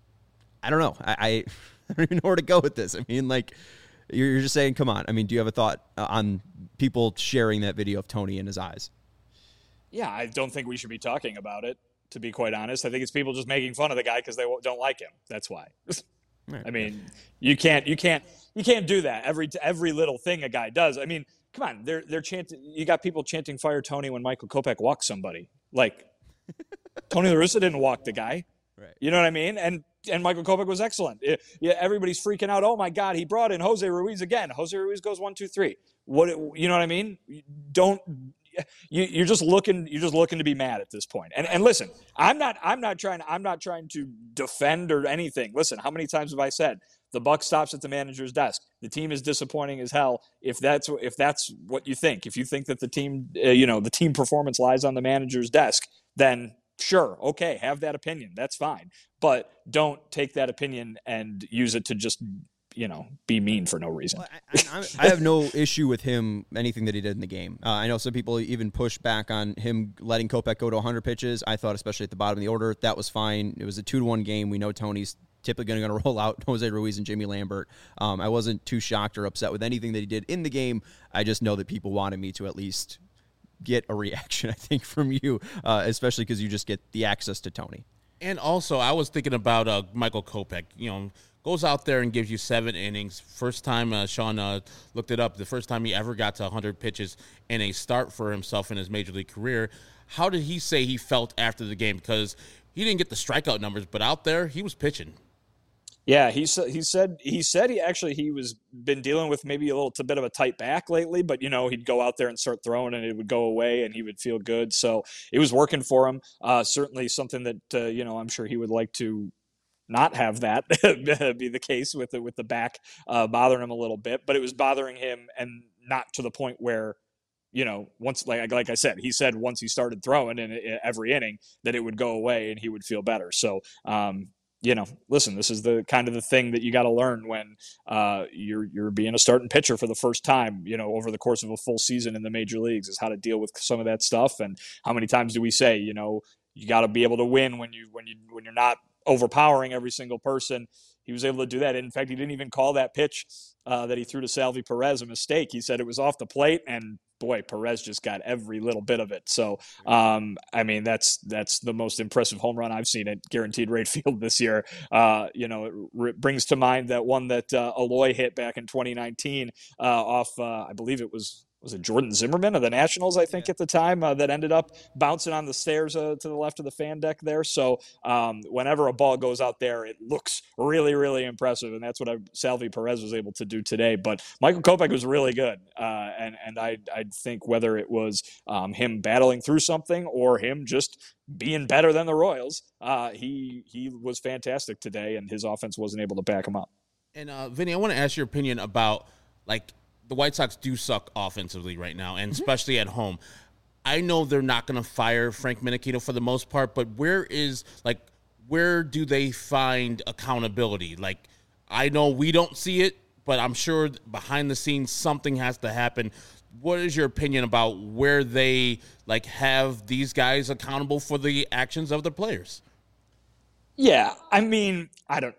Speaker 1: I don't know. I don't even know where to go with this. I mean, like, you're just saying, come on. I mean, do you have a thought on people sharing that video of Tony in his eyes?
Speaker 5: Yeah, I don't think we should be talking about it, to be quite honest. I think it's people just making fun of the guy because they don't like him. That's why. I mean, you can't do that. Every little thing a guy does. I mean, come on, they're chanting. You got people chanting "Fire Tony" when Michael Kopech walks somebody. Like, Tony La Russa didn't walk the guy.
Speaker 1: Right.
Speaker 5: You know what I mean? And Michael Kopech was excellent. Everybody's freaking out. Oh my God, he brought in Jose Ruiz again. Jose Ruiz goes 1, 2, 3. What, you know what I mean? You're just looking to be mad at this point. And listen, I'm not trying to defend or anything. Listen, how many times have I said the buck stops at the manager's desk? The team is disappointing as hell. If that's what you think, if you think that the team, the team performance lies on the manager's desk, then sure, okay, have that opinion. That's fine. But don't take that opinion and use it to just be mean for no reason.
Speaker 1: Well, I have no issue with him, anything that he did in the game. I know some people even push back on him letting Kopech go to 100 pitches. I thought, especially at the bottom of the order, that was fine. It was a 2-1 game. We know Tony's typically going to roll out Jose Ruiz and Jimmy Lambert. I wasn't too shocked or upset with anything that he did in the game. I just know that people wanted me to at least get a reaction, I think, from you, especially because you just get the access to Tony.
Speaker 2: And also, I was thinking about Michael Kopech, goes out there and gives you 7 innings. First time, Sean looked it up, the first time he ever got to 100 pitches in a start for himself in his major league career. How did he say he felt after the game? Because he didn't get the strikeout numbers, but out there, he was pitching.
Speaker 5: Yeah, he said he was been dealing with maybe a bit of a tight back lately, but he'd go out there and start throwing and it would go away and he would feel good. So it was working for him. Certainly something that I'm sure he would like to not have that be the case with the back bothering him a little bit, but it was bothering him and not to the point where once like I said, he said once he started throwing in every inning that it would go away and he would feel better. So listen, this is the kind of the thing that you got to learn when you're being a starting pitcher for the first time, over the course of a full season in the major leagues, is how to deal with some of that stuff. And how many times do we say, you got to be able to win when you're not overpowering every single person. He was able to do that. In fact, he didn't even call that pitch that he threw to Salvi Perez a mistake. He said it was off the plate, and boy, Perez just got every little bit of it. So, that's the most impressive home run I've seen at Guaranteed Rate Field this year. It brings to mind that one that Aloy hit back in 2019 off, I believe it was it Jordan Zimmerman of the Nationals, I think, at the time, that ended up bouncing on the stairs to the left of the fan deck there. So whenever a ball goes out there, it looks really, really impressive, and that's what Salvi Perez was able to do today. But Michael Kopech was really good, and I think whether it was him battling through something or him just being better than the Royals, he was fantastic today, and his offense wasn't able to back him up.
Speaker 2: And Vinny, I want to ask your opinion about, the White Sox do suck offensively right now, and especially at home. I know they're not going to fire Frank Menechino for the most part, but where do they find accountability? I know we don't see it, but I'm sure behind the scenes something has to happen. What is your opinion about where they have these guys accountable for the actions of the players?
Speaker 5: Yeah, I mean, I don't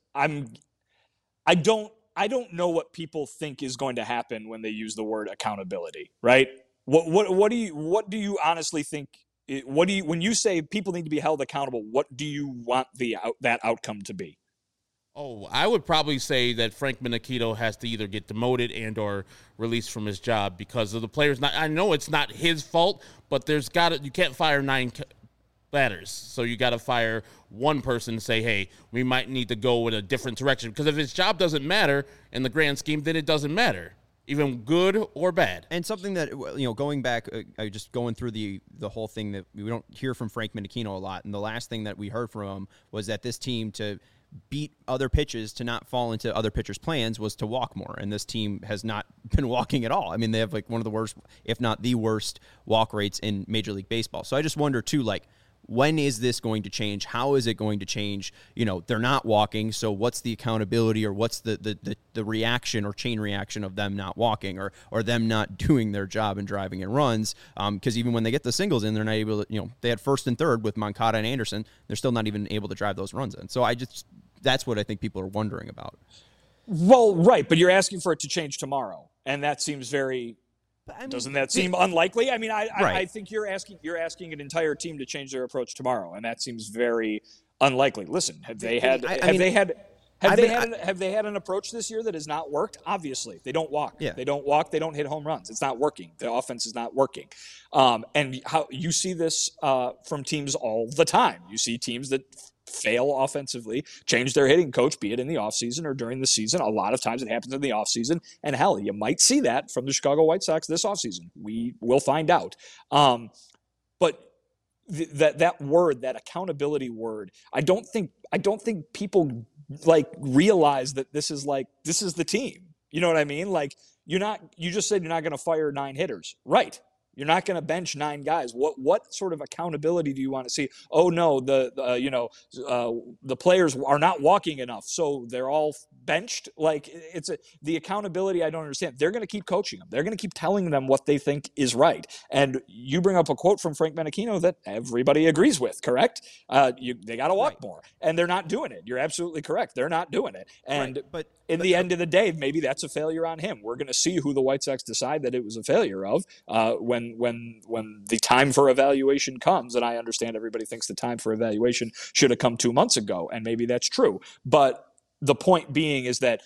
Speaker 5: know what people think is going to happen when they use the word accountability, right? What do you honestly think? When you say people need to be held accountable, what do you want that outcome to be?
Speaker 2: Oh, I would probably say that Frank Menachito has to either get demoted and or released from his job because of the players. I know it's not his fault, but you can't fire 9 batters. So you got to fire one person to say, hey, we might need to go in a different direction. Because if his job doesn't matter in the grand scheme, then it doesn't matter, even good or bad.
Speaker 1: And something that, going back, just going through the whole thing that we don't hear from Frank Menachino a lot. And the last thing that we heard from him was that this team, to beat other pitches, to not fall into other pitchers' plans, was to walk more. And this team has not been walking at all. I mean, they have one of the worst, if not the worst, walk rates in Major League Baseball. So I just wonder, too, when is this going to change? How is it going to change? They're not walking, so what's the accountability, or what's the reaction or chain reaction of them not walking, or them not doing their job and driving in runs? Because even when they get the singles in, they're not able to, they had first and third with Moncada and Anderson. They're still not even able to drive those runs in. So that's what I think people are wondering about.
Speaker 5: Well, right, but you're asking for it to change tomorrow, and that seems very... doesn't that seem unlikely? I mean, I think you're asking an entire team to change their approach tomorrow, and that seems very unlikely. Listen, have they had an approach this year that has not worked? Obviously, they don't walk.
Speaker 1: Yeah.
Speaker 5: They don't walk. They don't hit home runs. It's not working. The offense is not working. And how you see this from teams all the time. You see teams that fail offensively, change their hitting coach, be it in the offseason or during the season. A lot of times it happens in the offseason. And hell, you might see that from the Chicago White Sox this offseason. We will find out. But that word, that accountability word, I don't think people realize that this is the team. You know what I mean? You just said you're not going to fire 9 hitters. Right. You're not going to bench 9 guys. What sort of accountability do you want to see? Oh no, the players are not walking enough, so they're all benched. The accountability I don't understand. They're going to keep coaching them. They're going to keep telling them what they think is right. And you bring up a quote from Frank Menachino that everybody agrees with. Correct? They got to walk more, and they're not doing it. You're absolutely correct. They're not doing it. And
Speaker 1: but
Speaker 5: in the end of the day, maybe that's a failure on him. We're going to see who the White Sox decide that it was a failure of when the time for evaluation comes. And I understand everybody thinks the time for evaluation should have come 2 months ago, and maybe that's true. But the point being is that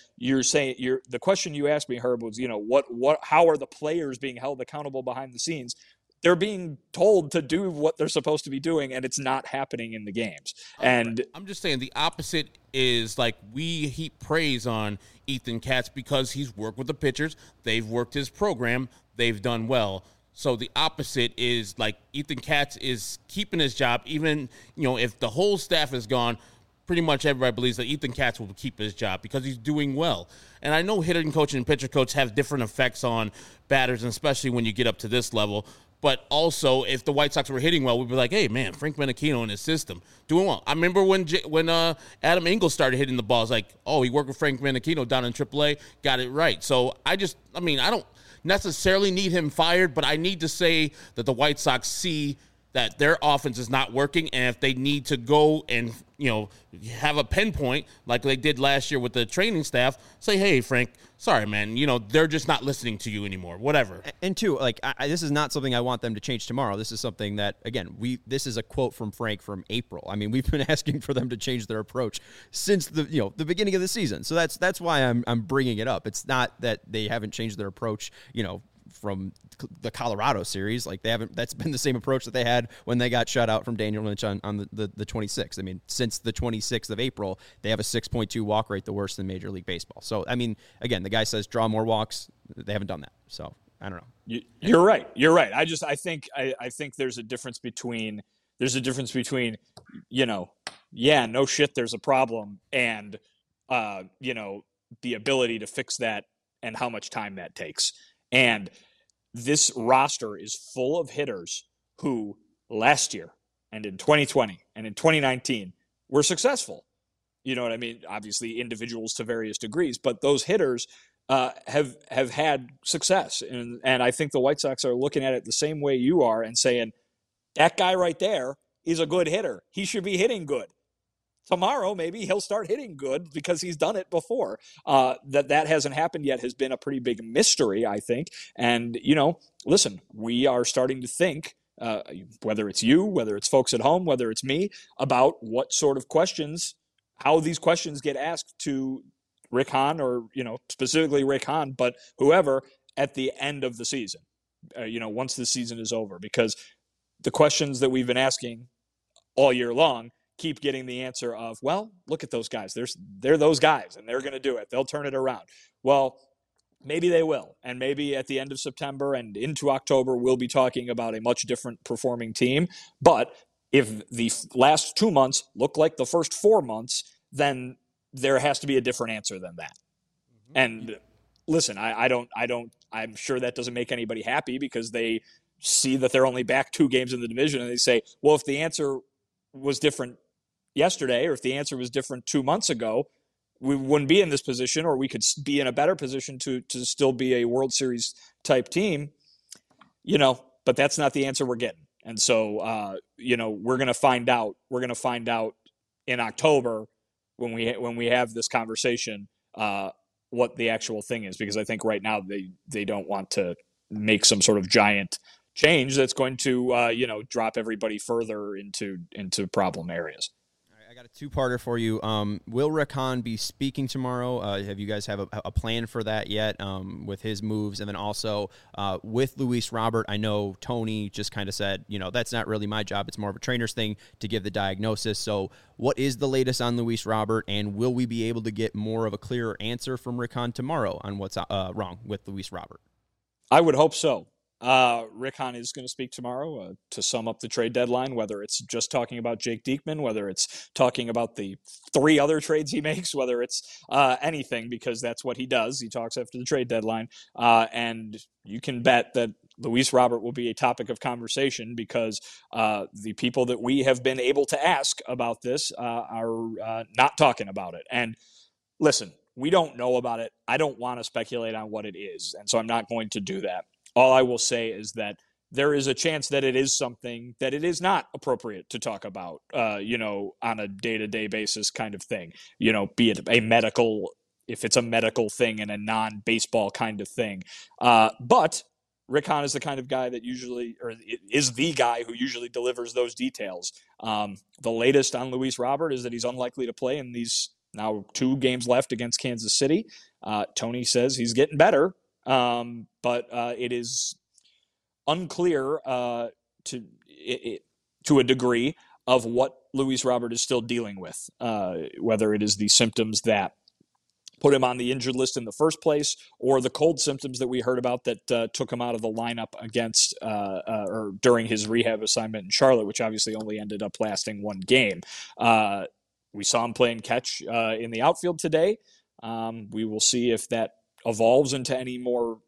Speaker 5: the question you asked me, Herb, was how are the players being held accountable behind the scenes? They're being told to do what they're supposed to be doing, and it's not happening in the games. And
Speaker 2: I'm just saying the opposite is we heap praise on Ethan Katz because he's worked with the pitchers. They've worked his program. They've done well. So the opposite is Ethan Katz is keeping his job, even, if the whole staff is gone. Pretty much everybody believes that Ethan Katz will keep his job because he's doing well. And I know hitting coach and pitcher coach have different effects on batters, and especially when you get up to this level. But also, if the White Sox were hitting well, we'd be like, hey, man, Frank Menachino in his system, doing well. I remember when Adam Engel started hitting the balls, he worked with Frank Menachino down in AAA, got it right. So I don't necessarily need him fired, but I need to say that the White Sox see that their offense is not working, and if they need to go and have a pinpoint like they did last year with the training staff, say, hey, Frank, sorry, man, they're just not listening to you anymore, whatever.
Speaker 1: And two, this is not something I want them to change tomorrow. This is something that, again, this is a quote from Frank from April. I mean, we've been asking for them to change their approach since the beginning of the season. So that's why I'm bringing it up. It's not that they haven't changed their approach, from the Colorado series. That's been the same approach that they had when they got shut out from Daniel Lynch on the 26th. I mean, since the 26th of April, they have a 6.2 walk rate, the worst in Major League Baseball. So, I mean, again, the guy says draw more walks. They haven't done that. So, I don't know.
Speaker 5: You're right. I think there's a difference between no shit, there's a problem, and the ability to fix that and how much time that takes. And this roster is full of hitters who last year and in 2020 and in 2019 were successful. You know what I mean? Obviously, individuals to various degrees, but those hitters have had success, and I think the White Sox are looking at it the same way you are and saying that guy right there is a good hitter. He should be hitting good. Tomorrow, maybe he'll start hitting good because he's done it before. That hasn't happened yet has been a pretty big mystery, I think. And, listen, we are starting to think, whether it's you, whether it's folks at home, whether it's me, about what sort of questions, how these questions get asked to Rick Hahn or, specifically Rick Hahn, but whoever at the end of the season, once the season is over. Because the questions that we've been asking all year long keep getting the answer of, well, look at those guys. They're those guys, and they're going to do it. They'll turn it around. Well, maybe they will. And maybe at the end of September and into October, we'll be talking about a much different performing team. But if the last 2 months look like the first 4 months, then there has to be a different answer than that. Mm-hmm. And listen, I'm sure that doesn't make anybody happy because they see that they're only back 2 games in the division and they say, well, if the answer was different yesterday, or if the answer was different 2 months ago, we wouldn't be in this position, or we could be in a better position to still be a World Series type team, but that's not the answer we're getting. And so, we're going to find out. We're going to find out in October when we have this conversation, what the actual thing is, because I think right now they don't want to make some sort of giant change that's going to, drop everybody further into problem areas.
Speaker 1: I got a 2-parter for you. Will Rick Hahn be speaking tomorrow? Have you guys have a plan for that yet with his moves? And then also with Luis Robert, I know Tony just kind of said, that's not really my job. It's more of a trainer's thing to give the diagnosis. So what is the latest on Luis Robert, and will we be able to get more of a clearer answer from Rick Hahn tomorrow on what's wrong with Luis Robert?
Speaker 5: I would hope so. Rick Hahn is going to speak tomorrow to sum up the trade deadline, whether it's just talking about Jake Diekman, whether it's talking about the 3 other trades he makes, whether it's anything, because that's what he does. He talks after the trade deadline. And you can bet that Luis Robert will be a topic of conversation because the people that we have been able to ask about this are not talking about it. And listen, we don't know about it. I don't want to speculate on what it is, and so I'm not going to do that. All I will say is that there is a chance that it is something that it is not appropriate to talk about, on a day-to-day basis kind of thing, be it if it's a medical thing and a non-baseball kind of thing. But Rick Hahn is the kind of guy that is the guy who usually delivers those details. The latest on Luis Robert is that he's unlikely to play in these now 2 games left against Kansas City. Tony says he's getting better. But it is unclear to a degree of what Luis Robert is still dealing with, whether it is the symptoms that put him on the injured list in the first place, or the cold symptoms that we heard about that took him out of the lineup against or during his rehab assignment in Charlotte, which obviously only ended up lasting 1 game. We saw him playing catch in the outfield today. We will see if that evolves into any more,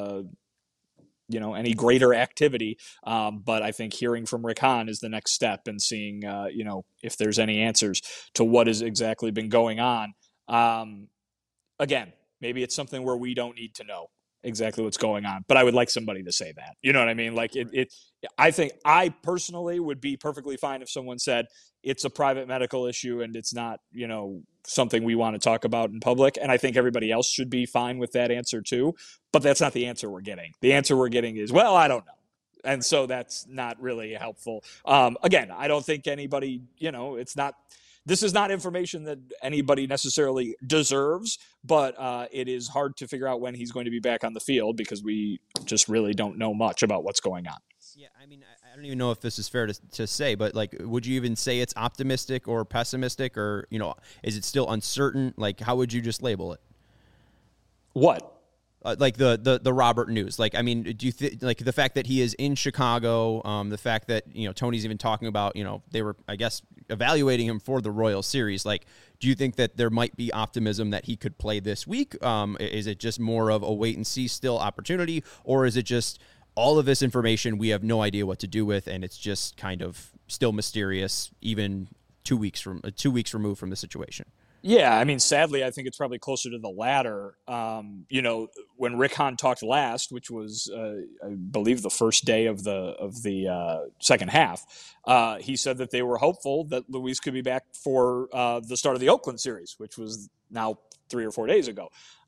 Speaker 5: any greater activity. But I think hearing from Rick Hahn is the next step, and seeing, if there's any answers to what has exactly been going on. Again, maybe it's something where we don't need to know exactly what's going on, but I would like somebody to say that. You know what I mean? Like I think I personally would be perfectly fine if someone said it's a private medical issue and it's not, something we want to talk about in public. And I think everybody else should be fine with that answer too, but that's not the answer we're getting. The answer we're getting is, well, I don't know. And so that's not really helpful. Again, I don't think anybody, this is not information that anybody necessarily deserves, but it is hard to figure out when he's going to be back on the field because we just really don't know much about what's going on.
Speaker 1: Yeah, I mean, I don't even know if this is fair to say, but would you even say it's optimistic or pessimistic, or, is it still uncertain? How would you just label it?
Speaker 5: What?
Speaker 1: The Robert news. Do you the fact that he is in Chicago, the fact that, Tony's even talking about, they were, I guess, evaluating him for the Royal Series. Do you think that there might be optimism that he could play this week? Is it just more of a wait and see still opportunity, or is it just all of this information we have no idea what to do with, and it's just kind of still mysterious, even 2 weeks removed from the situation?
Speaker 5: Yeah, I mean, sadly, I think it's probably closer to the latter. When Rick Hahn talked last, which was, I believe, the first day of the second half, he said that they were hopeful that Luis could be back for the start of the Oakland series, which was now 3 or 4 days ago.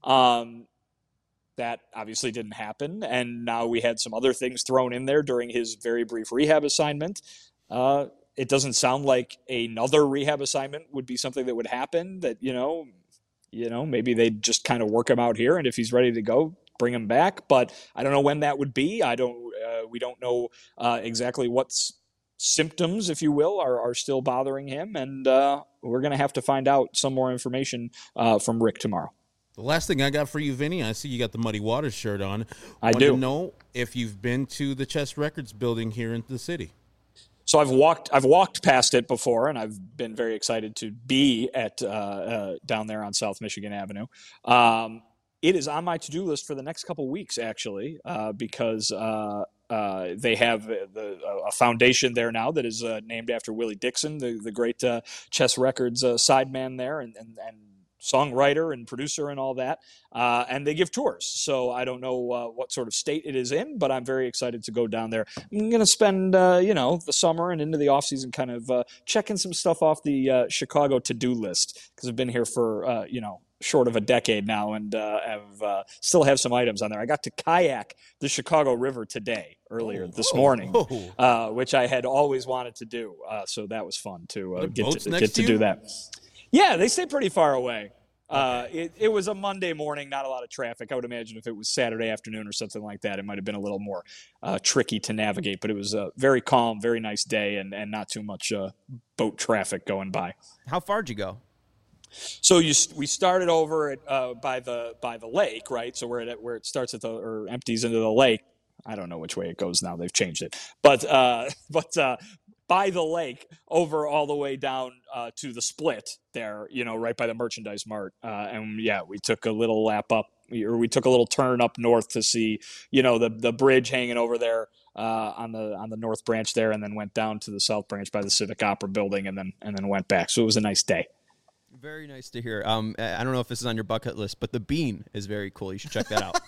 Speaker 5: That obviously didn't happen, and now we had some other things thrown in there during his very brief rehab assignment. It doesn't sound like another rehab assignment would be something that would happen. That maybe they'd just kind of work him out here, and if he's ready to go, bring him back. But I don't know when that would be. We don't know exactly what symptoms, if you will, are still bothering him, and we're going to have to find out some more information from Rick tomorrow.
Speaker 2: The last thing I got for you, Vinny, I see you got the Muddy Waters shirt on.
Speaker 5: I do.
Speaker 2: To know if you've been to the Chess Records building here in the city.
Speaker 5: So I've walked past it before, and I've been very excited to be at down there on South Michigan Avenue. It is on my to-do list for the next couple weeks, actually, because they have a foundation there now that is named after Willie Dixon, the great Chess Records sideman there, and songwriter and producer and all that. And they give tours. So I don't know what sort of state it is in, but I'm very excited to go down there. I'm going to spend, the summer and into the off season kind of checking some stuff off the Chicago to-do list, because I've been here for, short of a decade now, and still have some items on there. I got to kayak the Chicago River today, earlier this morning, which I had always wanted to do. So that was fun to get to do that. Yeah, they stay pretty far away. Okay. It was a Monday morning, not a lot of traffic. I would imagine if it was Saturday afternoon or something like that, it might have been a little more tricky to navigate. But it was a very calm, very nice day, and not too much boat traffic going by.
Speaker 1: How far did you go?
Speaker 5: So we started over at by the lake, right? So where it starts or empties into the lake. I don't know which way it goes now. They've changed it, but by the lake over all the way down to the split there, right by the Merchandise Mart. And yeah, we took a little lap up, or we took a little turn up north to see, the bridge hanging over there on the North Branch there, and then went down to the South Branch by the Civic Opera building, and then went back. So it was a nice day.
Speaker 1: Very nice to hear. I don't know if this is on your bucket list, but the bean is very cool. You should check that out.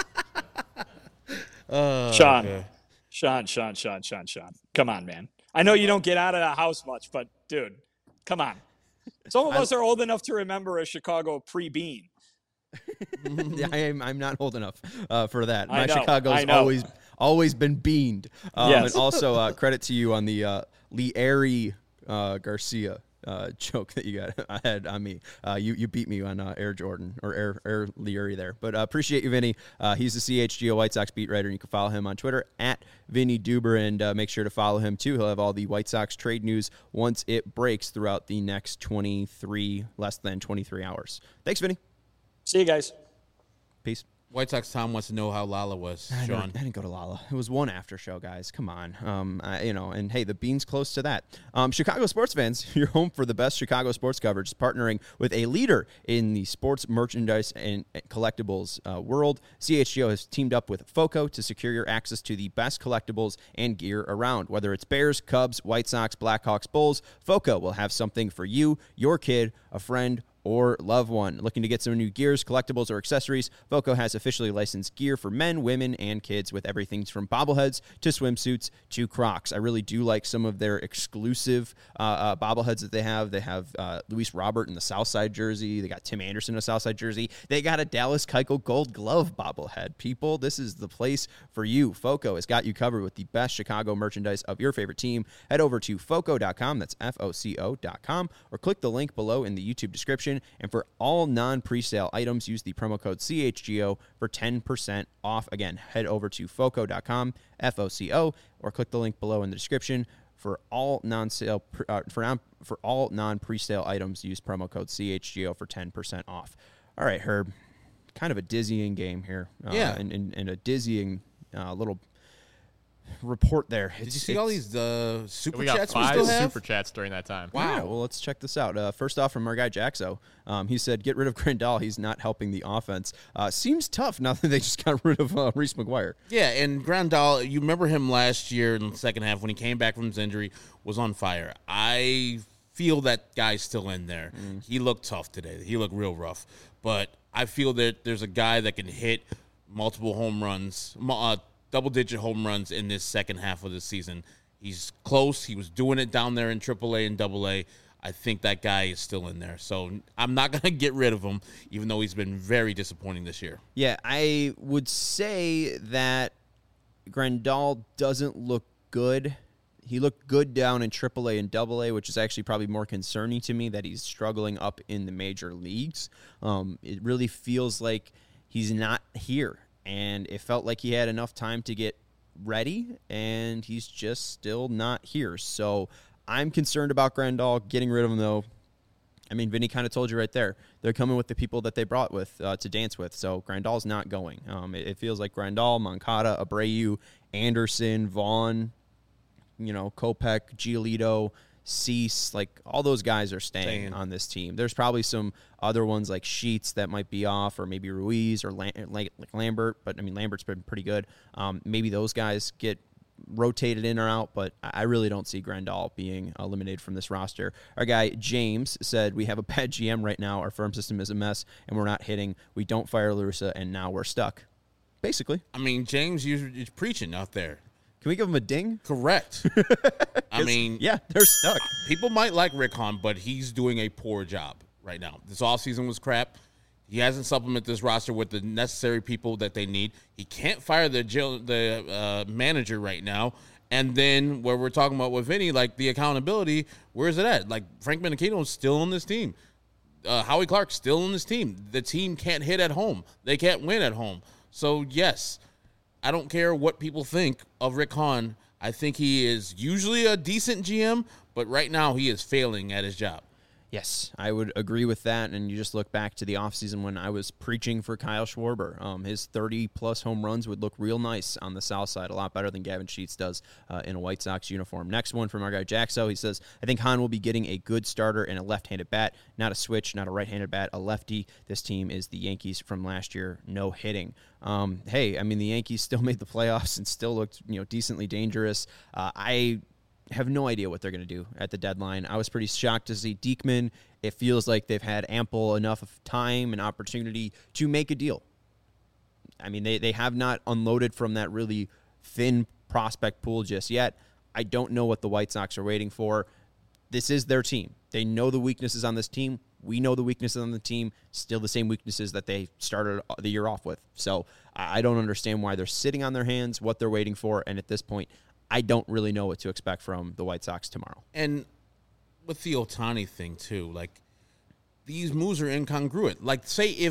Speaker 5: Sean.
Speaker 2: Okay.
Speaker 5: Sean. Come on, man. I know you don't get out of the house much, but dude, come on. Some of us are old enough to remember a Chicago pre-bean.
Speaker 1: I'm not old enough for that. My
Speaker 5: I know,
Speaker 1: Chicago's always been beaned.
Speaker 5: Yes.
Speaker 1: And also credit to you on the Lieri Garcia joke that you had on me. You beat me on Air Jordan or Air Lieri there. But appreciate you, Vinny. He's the CHGO White Sox beat writer, and you can follow him on Twitter at Vinny Duber, and make sure to follow him too. He'll have all the White Sox trade news once it breaks throughout the next less than 23 hours. Thanks, Vinny.
Speaker 5: See you guys.
Speaker 1: Peace.
Speaker 2: White Sox Tom wants to know how Lala was, Sean.
Speaker 1: I didn't go to Lala. It was one after show, guys. Come on. And hey, the bean's close to that. Chicago sports fans, your home for the best Chicago sports coverage, is partnering with a leader in the sports merchandise and collectibles world. CHGO has teamed up with FOCO to secure your access to the best collectibles and gear around. Whether it's Bears, Cubs, White Sox, Blackhawks, Bulls, FOCO will have something for you, your kid, a friend, or loved one. Looking to get some new gears, collectibles, or accessories? FOCO has officially licensed gear for men, women, and kids, with everything from bobbleheads to swimsuits to Crocs. I really do like some of their exclusive bobbleheads that they have. They have Luis Robert in the Southside jersey. They got Tim Anderson in a Southside jersey. They got a Dallas Keuchel Gold Glove bobblehead. People, this is the place for you. FOCO has got you covered with the best Chicago merchandise of your favorite team. Head over to FOCO.com, that's FOCO.com, or click the link below in the YouTube description. And for all non-presale items, use the promo code CHGO for 10% off. Again, head over to FOCO.com, FOCO, or click the link below in the description. For all non-presale items, use promo code CHGO for 10% off. All right, Herb, kind of a dizzying game here. And a dizzying little report there.
Speaker 2: Did you see all these super
Speaker 3: we
Speaker 2: chats
Speaker 3: got
Speaker 2: we
Speaker 3: 5
Speaker 2: still have?
Speaker 3: super chats during that time.
Speaker 1: Wow. Yeah, well, let's check this out. First off, from our guy Jaxo, he said, get rid of Grandal. He's not helping the offense. Seems tough now that they just got rid of Reese McGuire.
Speaker 2: Yeah, and Grandal, you remember him last year in the second half when he came back from his injury, was on fire. I feel that guy's still in there. He looked tough today. He looked real rough. But I feel that there's a guy that can hit multiple home runs, double-digit home runs in this second half of the season. He's close. He was doing it down there in AAA and AA. I think that guy is still in there. So I'm not going to get rid of him, even though he's been very disappointing this year.
Speaker 1: Yeah, I would say that Grandal doesn't look good. He looked good down in AAA and AA, which is actually probably more concerning to me that he's struggling up in the major leagues. It really feels like he's not here, and it felt like he had enough time to get ready, and he's just still not here. So I'm concerned about Grandal. Getting rid of him, though, I mean, Vinny kind of told you right there. They're coming with the people that they brought with to dance with. So Grandal's not going. It feels like Grandal, Moncada, Abreu, Anderson, Vaughn, Kopech, Giolito, Cease, like all those guys are staying on this team. There's probably some other ones like Sheets that might be off, or maybe Ruiz or like Lambert. But I mean, Lambert's been pretty good. Maybe those guys get rotated in or out, but I really don't see Grandal being eliminated from this roster. Our guy James said, we have a bad GM right now. Our farm system is a mess, and we're not hitting. We don't fire La Russa, and now we're stuck. Basically.
Speaker 2: I mean, James is preaching out there.
Speaker 1: Can we give him a ding?
Speaker 2: Correct. I mean,
Speaker 1: yeah, they're stuck.
Speaker 2: People might like Rick Hahn, but he's doing a poor job right now. This offseason was crap. He hasn't supplemented this roster with the necessary people that they need. He can't fire the manager right now. And then where we're talking about with Vinny, like the accountability, where is it at? Like Frank Menachino's still on this team. Howie Clark's still on this team. The team can't hit at home. They can't win at home. So, yes, I don't care what people think of Rick Hahn. I think he is usually a decent GM, but right now he is failing at his job.
Speaker 1: Yes, I would agree with that. And you just look back to the offseason when I was preaching for Kyle Schwarber. His 30-plus home runs would look real nice on the south side, a lot better than Gavin Sheets does in a White Sox uniform. Next one from our guy Jaxo. He says, I think Hahn will be getting a good starter and a left-handed bat, not a switch, not a right-handed bat, a lefty. This team is the Yankees from last year, no hitting. Hey, I mean, the Yankees still made the playoffs and still looked decently dangerous. I have no idea what they're going to do at the deadline. I was pretty shocked to see Diekman. It feels like they've had ample enough of time and opportunity to make a deal. I mean, they have not unloaded from that really thin prospect pool just yet. I don't know what the White Sox are waiting for. This is their team. They know the weaknesses on this team. We know the weaknesses on the team. Still the same weaknesses that they started the year off with. So I don't understand why they're sitting on their hands, what they're waiting for, and at this point, I don't really know what to expect from the White Sox tomorrow.
Speaker 2: And with the Ohtani thing, too, like, these moves are incongruent. Like, say if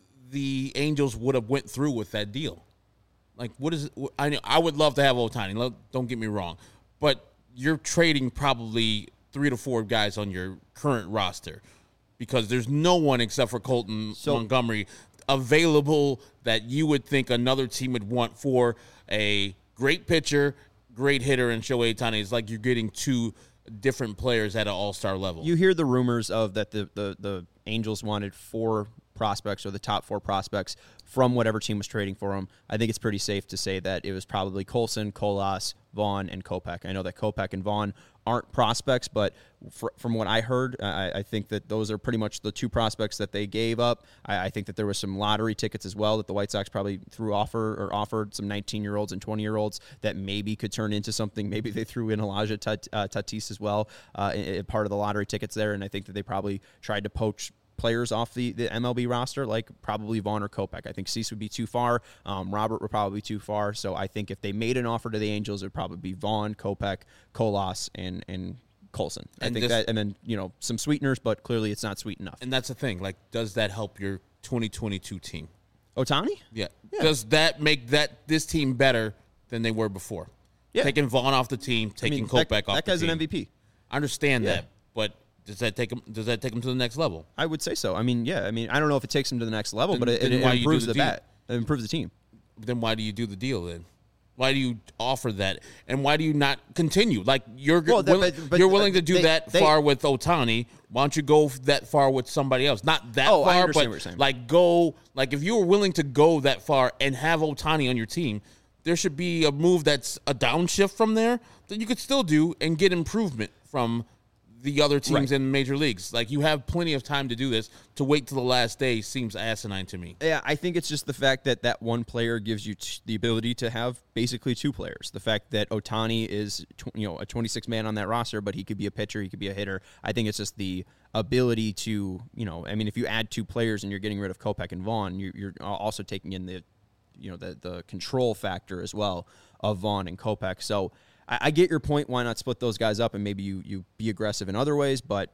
Speaker 2: the Angels would have went through with that deal. Like, what is it? I would love to have Ohtani. Don't get me wrong. But you're trading probably 3 to 4 guys on your current roster because there's no one except for Colton Montgomery available that you would think another team would want for a great pitcher, great hitter, and Shohei Ohtani. It's like you're getting 2 different players at an all-star level.
Speaker 1: You hear the rumors of that the Angels wanted 4 prospects or the top 4 prospects from whatever team was trading for them. I think it's pretty safe to say that it was probably Colson, Colas, Vaughn, and Kopech. I know that Kopech and Vaughn aren't prospects, but from what I heard, I think that those are pretty much the 2 prospects that they gave up. I think that there was some lottery tickets as well that the White Sox probably offered some 19-year-olds and 20-year-olds that maybe could turn into something. Maybe they threw in Elijah Tatis as well, part of the lottery tickets there, and I think that they probably tried to poach players off the MLB roster, like probably Vaughn or Kopech. I think Cease would be too far. Robert would probably be too far. So I think if they made an offer to the Angels, it would probably be Vaughn, Kopech, Colas, and Colson. And then some sweeteners, but clearly it's not sweet enough.
Speaker 2: And that's the thing. Like, does that help your 2022 team?
Speaker 1: Ohtani?
Speaker 2: Yeah. Does that make this team better than they were before?
Speaker 1: Yeah.
Speaker 2: Taking Vaughn off the team, taking Kopech off the team.
Speaker 1: That guy's an MVP.
Speaker 2: I understand that, but does that take him to the next level?
Speaker 1: I would say so. I mean, I don't know if it takes him to the next level, but it improves the bat. It improves the team.
Speaker 2: Then why do you do the deal then? Why do you offer that? And why do you not continue? Like, you're willing to do that far with Ohtani. Why don't you go that far with somebody else? Not that far,
Speaker 1: I understand
Speaker 2: but
Speaker 1: what you're saying.
Speaker 2: Like if you were willing to go that far and have Ohtani on your team, there should be a move that's a downshift from there that you could still do and get improvement from the other teams
Speaker 1: Right.
Speaker 2: in major leagues. Like, you have plenty of time to do this. To wait till the last day seems asinine to me.
Speaker 1: Yeah, I think it's just the fact that that one player gives you the ability to have basically two players. The fact that Ohtani is, a 26 man on that roster, but he could be a pitcher, he could be a hitter. I think it's just the ability to, if you add two players and you're getting rid of Kopech and Vaughn, you're also taking in the control factor as well of Vaughn and Kopech. So I get your point. Why not split those guys up and maybe you be aggressive in other ways? But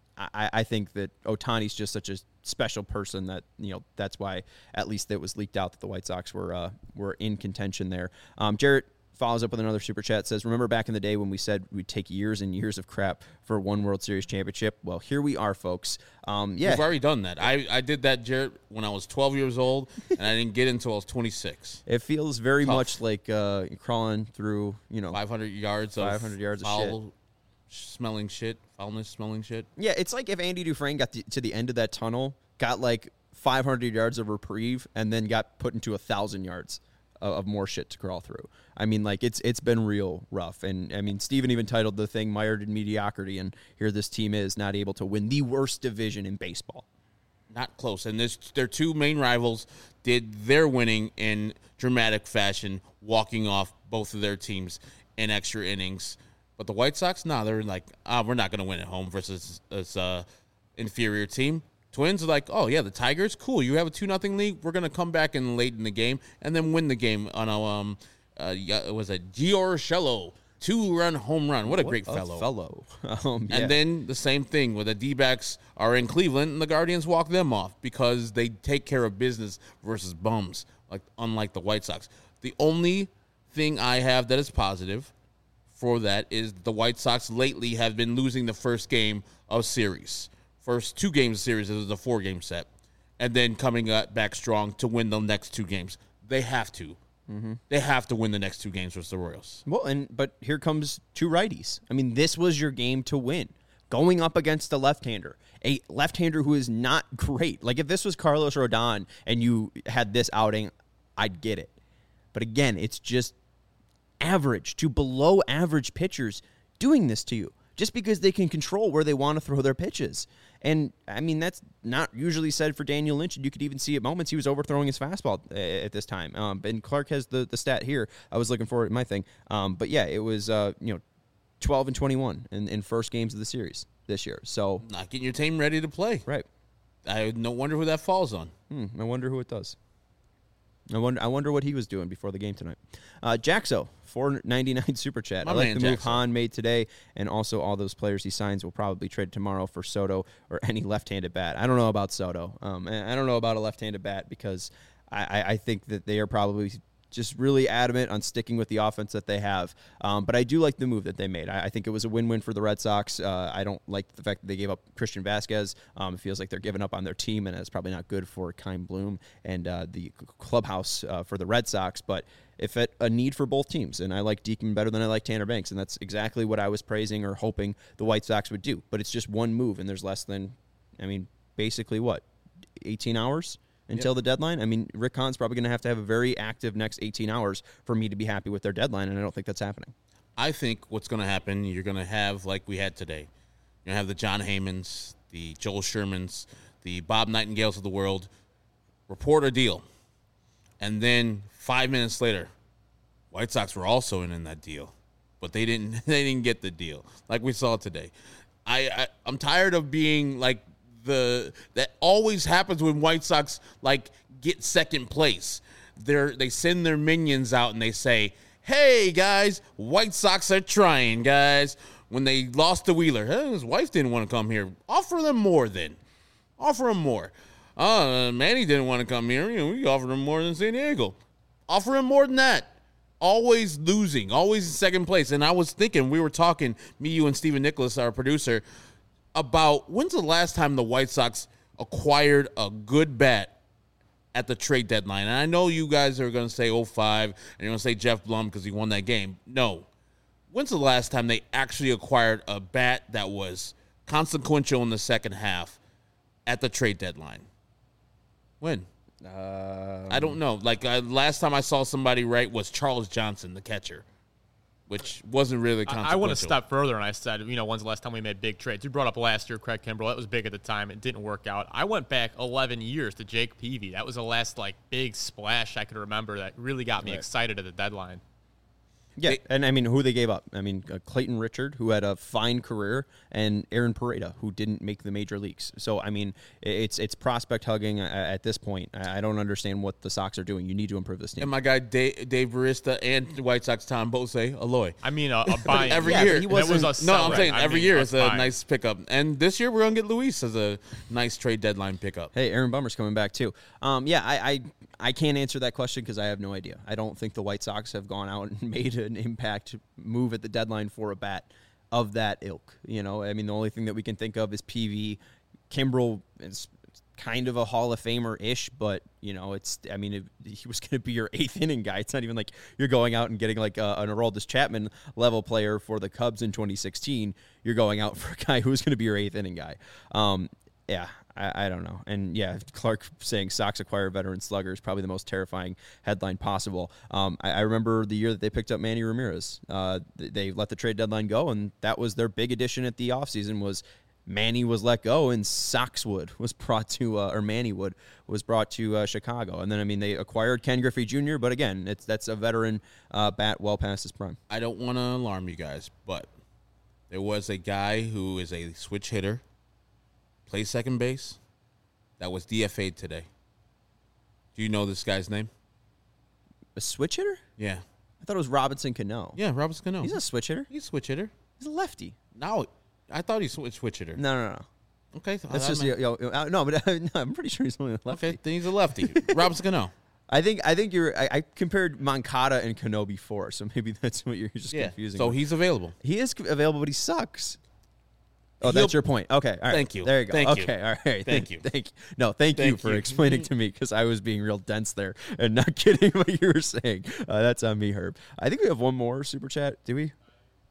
Speaker 1: I think that Ohtani's just such a special person that, that's why at least it was leaked out that the White Sox were in contention there. Jarrett follows up with another super chat, says, remember back in the day when we said we'd take years and years of crap for one World Series championship? Well, here we are, folks. Yeah.
Speaker 2: You've already done that. I did that, Jarrett, when I was 12 years old, and I didn't get until I was 26.
Speaker 1: It feels very
Speaker 2: Tough.
Speaker 1: much like crawling through,
Speaker 2: 500 yards of
Speaker 1: 500 yards of
Speaker 2: foul smelling shit, foulness smelling shit.
Speaker 1: Yeah, it's like if Andy Dufresne got to the end of that tunnel, got like 500 yards of reprieve, and then got put into 1,000 yards of more shit to crawl through. I mean, like, it's been real rough. And, I mean, Steven even titled the thing Mired in Mediocrity, and here this team is not able to win the worst division in baseball.
Speaker 2: Not close. And their two main rivals did their winning in dramatic fashion, walking off both of their teams in extra innings. But the White Sox, they're like, we're not going to win at home versus this inferior team. Twins are like, oh, yeah, the Tigers, cool. You have a 2-0 lead. We're going to come back in late in the game and then win the game on it was a Gio Urshela 2-run home run. What a great fellow.
Speaker 1: Yeah.
Speaker 2: And then the same thing where the D-backs are in Cleveland and the Guardians walk them off because they take care of business versus bums, unlike the White Sox. The only thing I have that is positive for that is the White Sox lately have been losing the first game of series. First 2 games of series, it was a 4-game set, and then coming back strong to win the next 2 games. They have to. Mm-hmm. They have to win the next 2 games versus the Royals.
Speaker 1: Well, but here comes 2 righties. I mean, this was your game to win. Going up against a left-hander who is not great. Like, if this was Carlos Rodon and you had this outing, I'd get it. But again, it's just average to below average pitchers doing this to you just because they can control where they want to throw their pitches. And, I mean, that's not usually said for Daniel Lynch, and you could even see at moments he was overthrowing his fastball at this time. And Clark has the stat here. I was looking for it in my thing. But, yeah, it was, 12-21 in first games of the series this year. So
Speaker 2: not getting your team ready to play.
Speaker 1: Right.
Speaker 2: I no wonder who that falls on.
Speaker 1: I wonder who it does. I wonder what he was doing before the game tonight. Jaxo, $4.99 super chat. I like the move Hahn made today, and also all those players he signs will probably trade tomorrow for Soto or any left-handed bat. I don't know about Soto. I don't know about a left-handed bat because I think that they are probably just really adamant on sticking with the offense that they have. But I do like the move that they made. I think it was a win-win for the Red Sox. I don't like the fact that they gave up Christian Vasquez. It feels like they're giving up on their team, and it's probably not good for Kyle Bloom and the clubhouse for the Red Sox. But if a need for both teams, and I like Diekman better than I like Tanner Banks, and that's exactly what I was praising or hoping the White Sox would do. But it's just one move, and there's less than, basically what, 18 hours? Until the deadline. I mean, Rick Hahn's probably going to have a very active next 18 hours for me to be happy with their deadline, and I don't think that's happening.
Speaker 2: I think what's going to happen, you're going to have, like we had today, you're going to have the John Heymans, the Joel Shermans, the Bob Nightingales of the world report a deal. And then 5 minutes later, White Sox were also in that deal, but they didn't get the deal like we saw today. I'm tired of being like, that always happens when White Sox get second place. They send their minions out and they say, "Hey guys, White Sox are trying, guys." When they lost to Wheeler, his wife didn't want to come here. Offer them more then. Offer them more. Manny didn't want to come here. We offered him more than San Diego. Offer him more than that. Always losing. Always in second place. And I was thinking, we were talking, me, you, and Stephen Nicholas, our producer, about when's the last time the White Sox acquired a good bat at the trade deadline. And I know you guys are going to say 05, and you're going to say Jeff Blum because he won that game. No. When's the last time they actually acquired a bat that was consequential in the second half at the trade deadline? When? I don't know. Last time I saw somebody right was Charles Johnson, the catcher, which wasn't really consequential.
Speaker 3: I went a step further, and I said, when's the last time we made big trades? You brought up last year, Craig Kimbrell. That was big at the time. It didn't work out. I went back 11 years to Jake Peavy. That was the last big splash I could remember that really got me excited at the deadline.
Speaker 1: Yeah, and I mean, who they gave up? I mean, Clayton Richard, who had a fine career, and Aaron Pareda, who didn't make the major leagues. So, I mean, it's prospect hugging at this point. I don't understand what the Sox are doing. You need to improve this team.
Speaker 2: And my guy Dave Barista and the White Sox Tom Bose Aloy.
Speaker 3: I mean, a buy
Speaker 2: every year.
Speaker 3: I'm
Speaker 2: saying every year is a nice pickup. And this year we're gonna get Luis as a nice trade deadline pickup.
Speaker 1: Hey, Aaron Bummer's coming back too. I can't answer that question because I have no idea. I don't think the White Sox have gone out and made an impact move at the deadline for a bat of that ilk. I mean, the only thing that we can think of is PV. Kimbrel is kind of a Hall of Famer-ish, but, he was going to be your 8th inning guy. It's not even like you're going out and getting an Aroldis Chapman level player for the Cubs in 2016. You're going out for a guy who's going to be your 8th inning guy. Yeah, I don't know. And, yeah, Clark saying Sox acquire veteran slugger is probably the most terrifying headline possible. I remember the year that they picked up Manny Ramirez. They let the trade deadline go, and that was their big addition at the offseason was Manny was let go, and Soxwood was brought to, or Mannywood was brought to Chicago. And then, they acquired Ken Griffey Jr., but again, that's a veteran bat well past his prime.
Speaker 2: I don't want to alarm you guys, but there was a guy who is a switch hitter, plays second base, that was DFA'd today. Do you know this guy's name?
Speaker 1: A switch hitter?
Speaker 2: Yeah.
Speaker 1: I thought it was Robinson Cano.
Speaker 2: Yeah, Robinson Cano.
Speaker 1: He's a switch hitter.
Speaker 2: He's a switch hitter.
Speaker 1: He's a lefty.
Speaker 2: No, I thought he's a switch hitter.
Speaker 1: No.
Speaker 2: Okay.
Speaker 1: That's just no, but I'm pretty sure he's only a lefty.
Speaker 2: Okay, then he's a lefty. Robinson Cano.
Speaker 1: I think I compared Moncada and Cano before, so maybe that's what you're just confusing.
Speaker 2: So he's available.
Speaker 1: He is available, but he sucks. Oh, that's your point. Okay, all right.
Speaker 2: Thank you.
Speaker 1: There you go.
Speaker 2: Thank you.
Speaker 1: Okay, all right.
Speaker 2: Thank you.
Speaker 1: Thank you. No, thank you for explaining to me because I was being real dense there and not getting what you were saying. That's on me, Herb. I think we have one more super chat. Do we?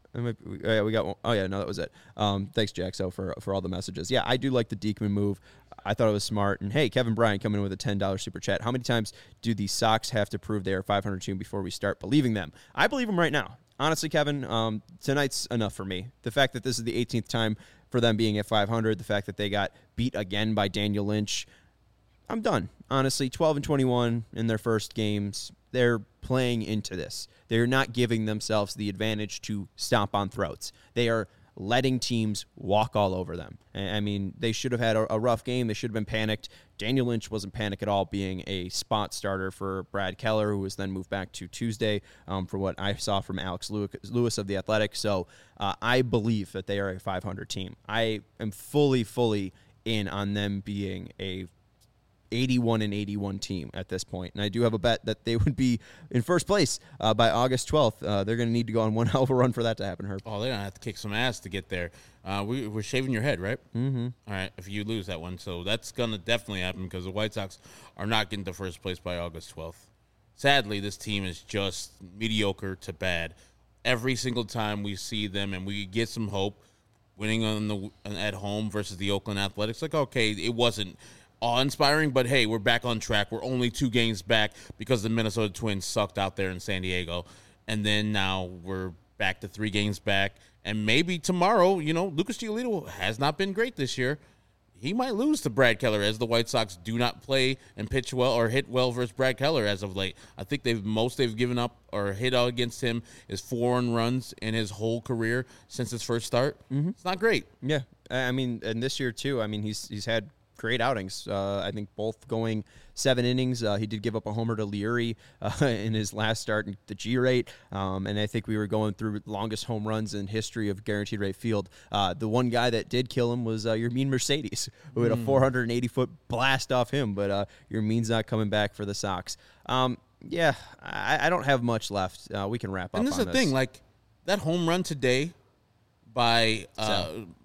Speaker 1: We got one. Oh, yeah, no, that was it. Thanks, Jaxo, for all the messages. Yeah, I do like the Diekman move. I thought it was smart. And, hey, Kevin Bryant coming in with a $10 super chat. How many times do the Sox have to prove they are 500 team before we start believing them? I believe them right now. Honestly, Kevin, tonight's enough for me. The fact that this is the 18th time for them being at 500, the fact that they got beat again by Daniel Lynch, I'm done. Honestly, 12-21 in their first games. They're playing into this. They're not giving themselves the advantage to stomp on throats. They are letting teams walk all over them. They should have had a rough game. They should have been panicked. Daniel Lynch wasn't panicked at all, being a spot starter for Brad Keller, who was then moved back to Tuesday, for what I saw from Alex Lewis of The Athletic. So I believe that they are a 500 team. I am fully in on them being a 81-81 team at this point. And I do have a bet that they would be in first place by August 12th. They're going to need to go on one hell of a run for that to happen, Herb.
Speaker 2: Oh, they're going to have to kick some ass to get there. We're shaving your head, right? Mm-hmm. All right, if you lose that one. So that's going to definitely happen because the White Sox are not getting to first place by August 12th. Sadly, this team is just mediocre to bad. Every single time we see them and we get some hope, winning at home versus the Oakland Athletics, okay, it wasn't awe-inspiring, but hey, we're back on track. We're only 2 games back because the Minnesota Twins sucked out there in San Diego. And then now we're back to 3 games back. And maybe tomorrow, Lucas Giolito has not been great this year. He might lose to Brad Keller as the White Sox do not play and pitch well or hit well versus Brad Keller as of late. I think they've given up or hit out against him is 4 runs in his whole career since his first start. Mm-hmm. It's not great.
Speaker 1: Yeah. And this year too, he's had great outings. I think both going 7 innings. He did give up a homer to Leary in his last start in the G rate. And I think we were going through longest home runs in history of Guaranteed Rate Field. The one guy that did kill him was Yermin Mercedes, who had a 480-foot blast off him. But Yermin's not coming back for the Sox. Yeah, I don't have much left. We can wrap up on this.
Speaker 2: And this is the thing, that home run today by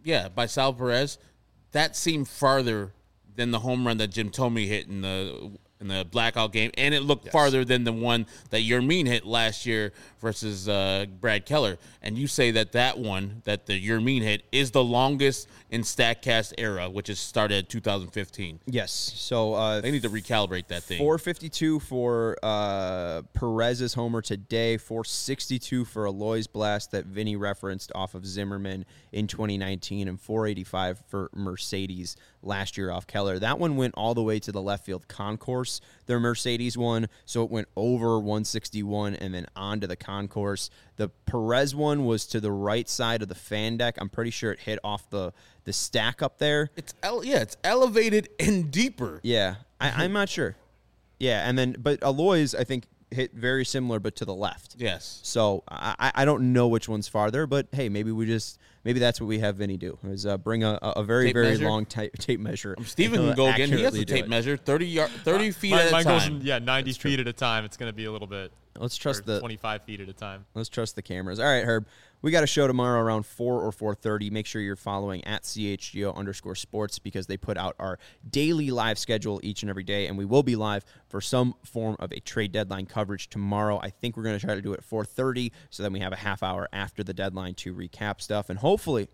Speaker 2: Sal Perez, that seemed farther than the home run that Jim Thome hit in the in the blackout game, and it looked farther than the one that Yermin hit last year versus Brad Keller. And you say that one that the Yermin hit is the longest in StatCast era, which is started at 2015.
Speaker 1: Yes. So
Speaker 2: They need to recalibrate that thing.
Speaker 1: 452 for Perez's homer today, 462 for Aloy's blast that Vinny referenced off of Zimmerman in 2019, and 485 for Mercedes last year off Keller. That one went all the way to the left field concourse, their Mercedes one, so it went over 161 and then onto the concourse. The Perez one was to the right side of the fan deck. I'm pretty sure it hit off the stack up there.
Speaker 2: It's elevated and deeper.
Speaker 1: Yeah, I'm not sure. Yeah, and then but Aloy's I think hit very similar but to the left.
Speaker 2: Yes.
Speaker 1: So I don't know which one's farther, but hey, maybe that's what we have Vinny do is bring a very
Speaker 2: Tape
Speaker 1: very
Speaker 2: measure?
Speaker 1: long tape measure.
Speaker 2: Steven can go again. He has a tape measure, 30 feet at a
Speaker 3: Mine
Speaker 2: time.
Speaker 3: goes 90 feet at a time. It's going to be a little bit.
Speaker 1: Let's trust
Speaker 3: or 25 feet at a time.
Speaker 1: Let's trust the cameras. All right, Herb. We got a show tomorrow around 4 or 4:30. Make sure you're following at @CHGO_sports because they put out our daily live schedule each and every day, and we will be live for some form of a trade deadline coverage tomorrow. I think we're going to try to do it at 4:30 so then we have a half hour after the deadline to recap stuff, and hopefully,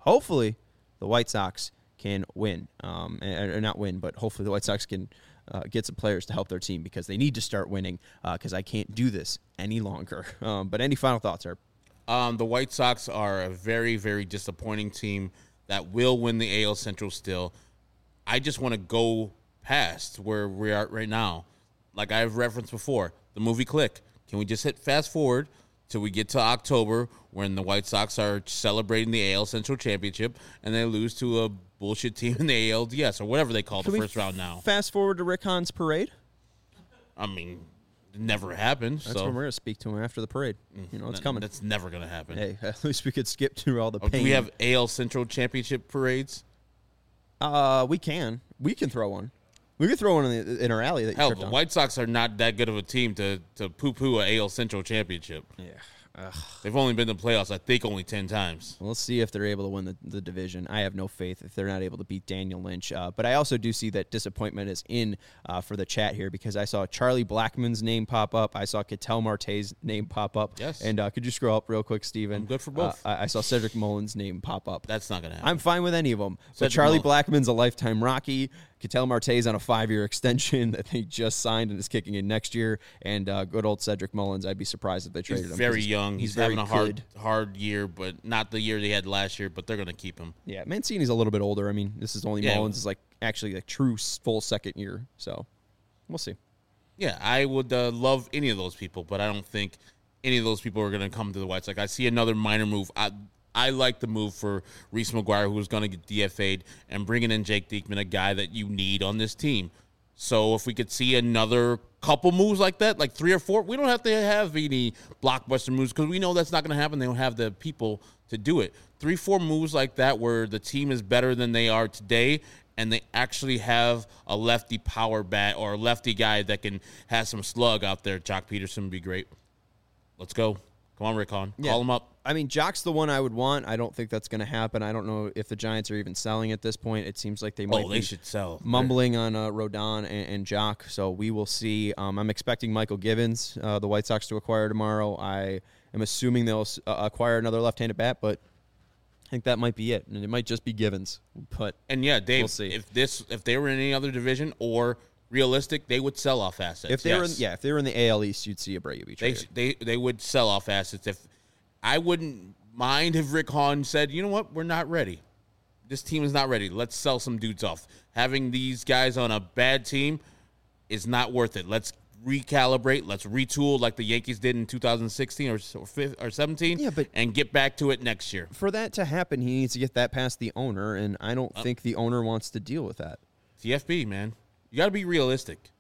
Speaker 1: the White Sox can win. Or not win, but hopefully the White Sox can get some players to help their team because they need to start winning because I can't do this any longer. But any final thoughts, Herb?
Speaker 2: The White Sox are a very, very disappointing team that will win the AL Central still. I just want to go past where we are right now. Like I've referenced before, the movie Click. Can we just hit fast forward till we get to October when the White Sox are celebrating the AL Central Championship and they lose to a bullshit team in the ALDS or whatever they call the first round now?
Speaker 1: Fast forward to Rick Hahn's parade?
Speaker 2: I mean, it never happened.
Speaker 1: That's
Speaker 2: so
Speaker 1: when we're going to speak to him after the parade. You know, it's coming.
Speaker 2: That's never going to happen.
Speaker 1: Hey, at least we could skip through all the pain.
Speaker 2: Do we have AL Central Championship parades?
Speaker 1: We can. We can throw one. We could throw one in our alley that you
Speaker 2: Hell,
Speaker 1: tripped
Speaker 2: the
Speaker 1: on.
Speaker 2: White Sox are not that good of a team to poo-poo a AL Central Championship.
Speaker 1: Yeah.
Speaker 2: They've only been to the playoffs, I think, only 10 times.
Speaker 1: Well, let's see if they're able to win the division. I have no faith if they're not able to beat Daniel Lynch. But I also do see that disappointment is in for the chat here because I saw Charlie Blackmon's name pop up. I saw Ketel Marte's name pop up.
Speaker 2: Yes.
Speaker 1: And could you scroll up real quick, Steven?
Speaker 2: I'm good for both.
Speaker 1: I saw Cedric Mullins' name pop up.
Speaker 2: That's not going to happen.
Speaker 1: I'm fine with any of them. But
Speaker 2: Cedric
Speaker 1: Charlie
Speaker 2: Mullins.
Speaker 1: Blackmon's a lifetime Rocky. Ketel Marte's on a 5-year extension that they just signed and is kicking in next year. And good old Cedric Mullins, I'd be surprised if they traded
Speaker 2: He's
Speaker 1: him.
Speaker 2: very
Speaker 1: 'cause
Speaker 2: young. He's
Speaker 1: very
Speaker 2: having a
Speaker 1: good.
Speaker 2: hard year, but not the year they had last year, but they're going to keep him.
Speaker 1: Yeah, Mancini's a little bit older. I mean, this is only
Speaker 2: Yeah.
Speaker 1: Mullins is like actually a true full second year. So we'll see.
Speaker 2: Yeah, I would love any of those people, but I don't think any of those people are going to come to the White Sox. I see another minor move. I like the move for Reese McGuire, who's going to get DFA'd, and bringing in Jake Diekman, a guy that you need on this team. So if we could see another couple moves like that, like 3 or 4, we don't have to have any blockbuster moves because we know that's not going to happen. They don't have the people to do it. 3-4 moves like that where the team is better than they are today and they actually have a lefty power bat or a lefty guy that can have some slug out there. Jock Peterson would be great. Let's go. Come on, Rick Hahn.
Speaker 1: Yeah.
Speaker 2: Call him up.
Speaker 1: I mean, Jock's the one I would want. I don't think that's going to happen. I don't know if the Giants are even selling at this point. It seems like they might
Speaker 2: They
Speaker 1: be
Speaker 2: should sell.
Speaker 1: mumbling on Rodon and Jock. So we will see. I'm expecting Michael Givens, the White Sox, to acquire tomorrow. I am assuming they'll acquire another left-handed bat, but I think that might be it. And it might just be Givens. But
Speaker 2: And yeah, Dave,
Speaker 1: We'll see.
Speaker 2: if they were in any other division or realistic, they would sell off assets.
Speaker 1: if they were,
Speaker 2: Yes.
Speaker 1: if they were in the AL East, you'd see Abreu be traded.
Speaker 2: They would sell off assets. If I wouldn't mind if Rick Hahn said, you know what, we're not ready. This team is not ready. Let's sell some dudes off. Having these guys on a bad team is not worth it. Let's recalibrate. Let's retool like the Yankees did in 2016 or 17
Speaker 1: Yeah, but-
Speaker 2: and get back to it next year.
Speaker 1: For that to happen, he needs to get that past the owner, and I don't think the owner wants to deal with that.
Speaker 2: TFB, man. You got to be realistic.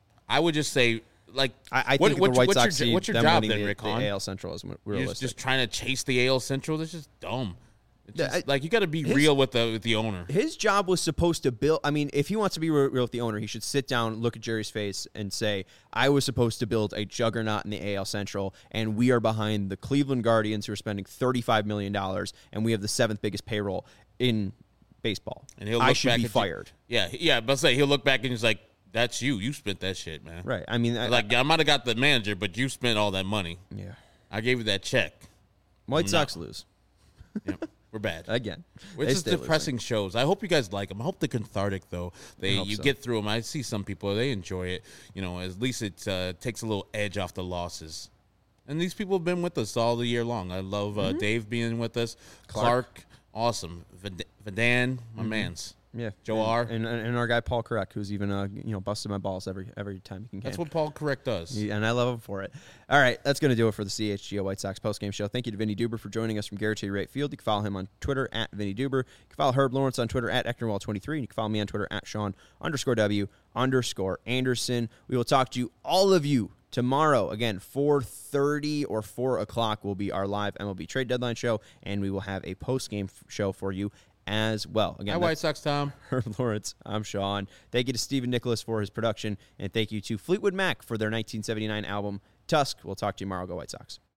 Speaker 2: I would just say, like,
Speaker 1: I think the White Sox see
Speaker 2: what's your
Speaker 1: them
Speaker 2: job
Speaker 1: winning
Speaker 2: then,
Speaker 1: the
Speaker 2: Rick Hahn?
Speaker 1: AL Central is
Speaker 2: You're
Speaker 1: realistic.
Speaker 2: just trying to chase the AL Central. That's just dumb. It's
Speaker 1: Yeah,
Speaker 2: just, like, you got to be real with the owner.
Speaker 1: His job was supposed to build. I mean, if he wants to be real with the owner, he should sit down, look at Jerry's face, and say, "I was supposed to build a juggernaut in the AL Central, and we are behind the Cleveland Guardians, who are spending $35 million, and we have the 7th biggest payroll in baseball.
Speaker 2: And he'll
Speaker 1: I
Speaker 2: look
Speaker 1: should
Speaker 2: back
Speaker 1: be
Speaker 2: at
Speaker 1: fired."
Speaker 2: Yeah, but say he'll look back and he's like, That's you. You spent that shit, man.
Speaker 1: Right. I mean,
Speaker 2: I might have got the manager, but you spent all that money.
Speaker 1: Yeah.
Speaker 2: I gave you that check.
Speaker 1: White Sox lose.
Speaker 2: Yep. We're bad.
Speaker 1: Again.
Speaker 2: It's just depressing shows. I hope you guys like them. I hope they're cathartic, though. Get through them. I see some people, they enjoy it. At least it takes a little edge off the losses. And these people have been with us all the year long. I love Dave being with us. Clark awesome. Vadan, my mans.
Speaker 1: Yeah.
Speaker 2: Joe R.
Speaker 1: And our guy Paul Correct, who's even busted my balls every time he can.
Speaker 2: That's what Paul Correct does.
Speaker 1: And I love him for it. All right, that's going to do it for the CHGO White Sox postgame show. Thank you to Vinny Duber for joining us from Garrett Wright Field. You can follow him on Twitter at Vinny Duber. You can follow Herb Lawrence on Twitter at Ecknerwall23. And you can follow me on Twitter at Sean_W_Anderson. We will talk to you, all of you, tomorrow. Again, 4:30 or 4 o'clock will be our live MLB trade deadline show, and we will have a postgame show for you as well. Again,
Speaker 2: hi, White Sox Tom.
Speaker 1: Herb Lawrence, I'm Sean. Thank you to Stephen Nicholas for his production, and thank you to Fleetwood Mac for their 1979 album, Tusk. We'll talk to you tomorrow. Go White Sox.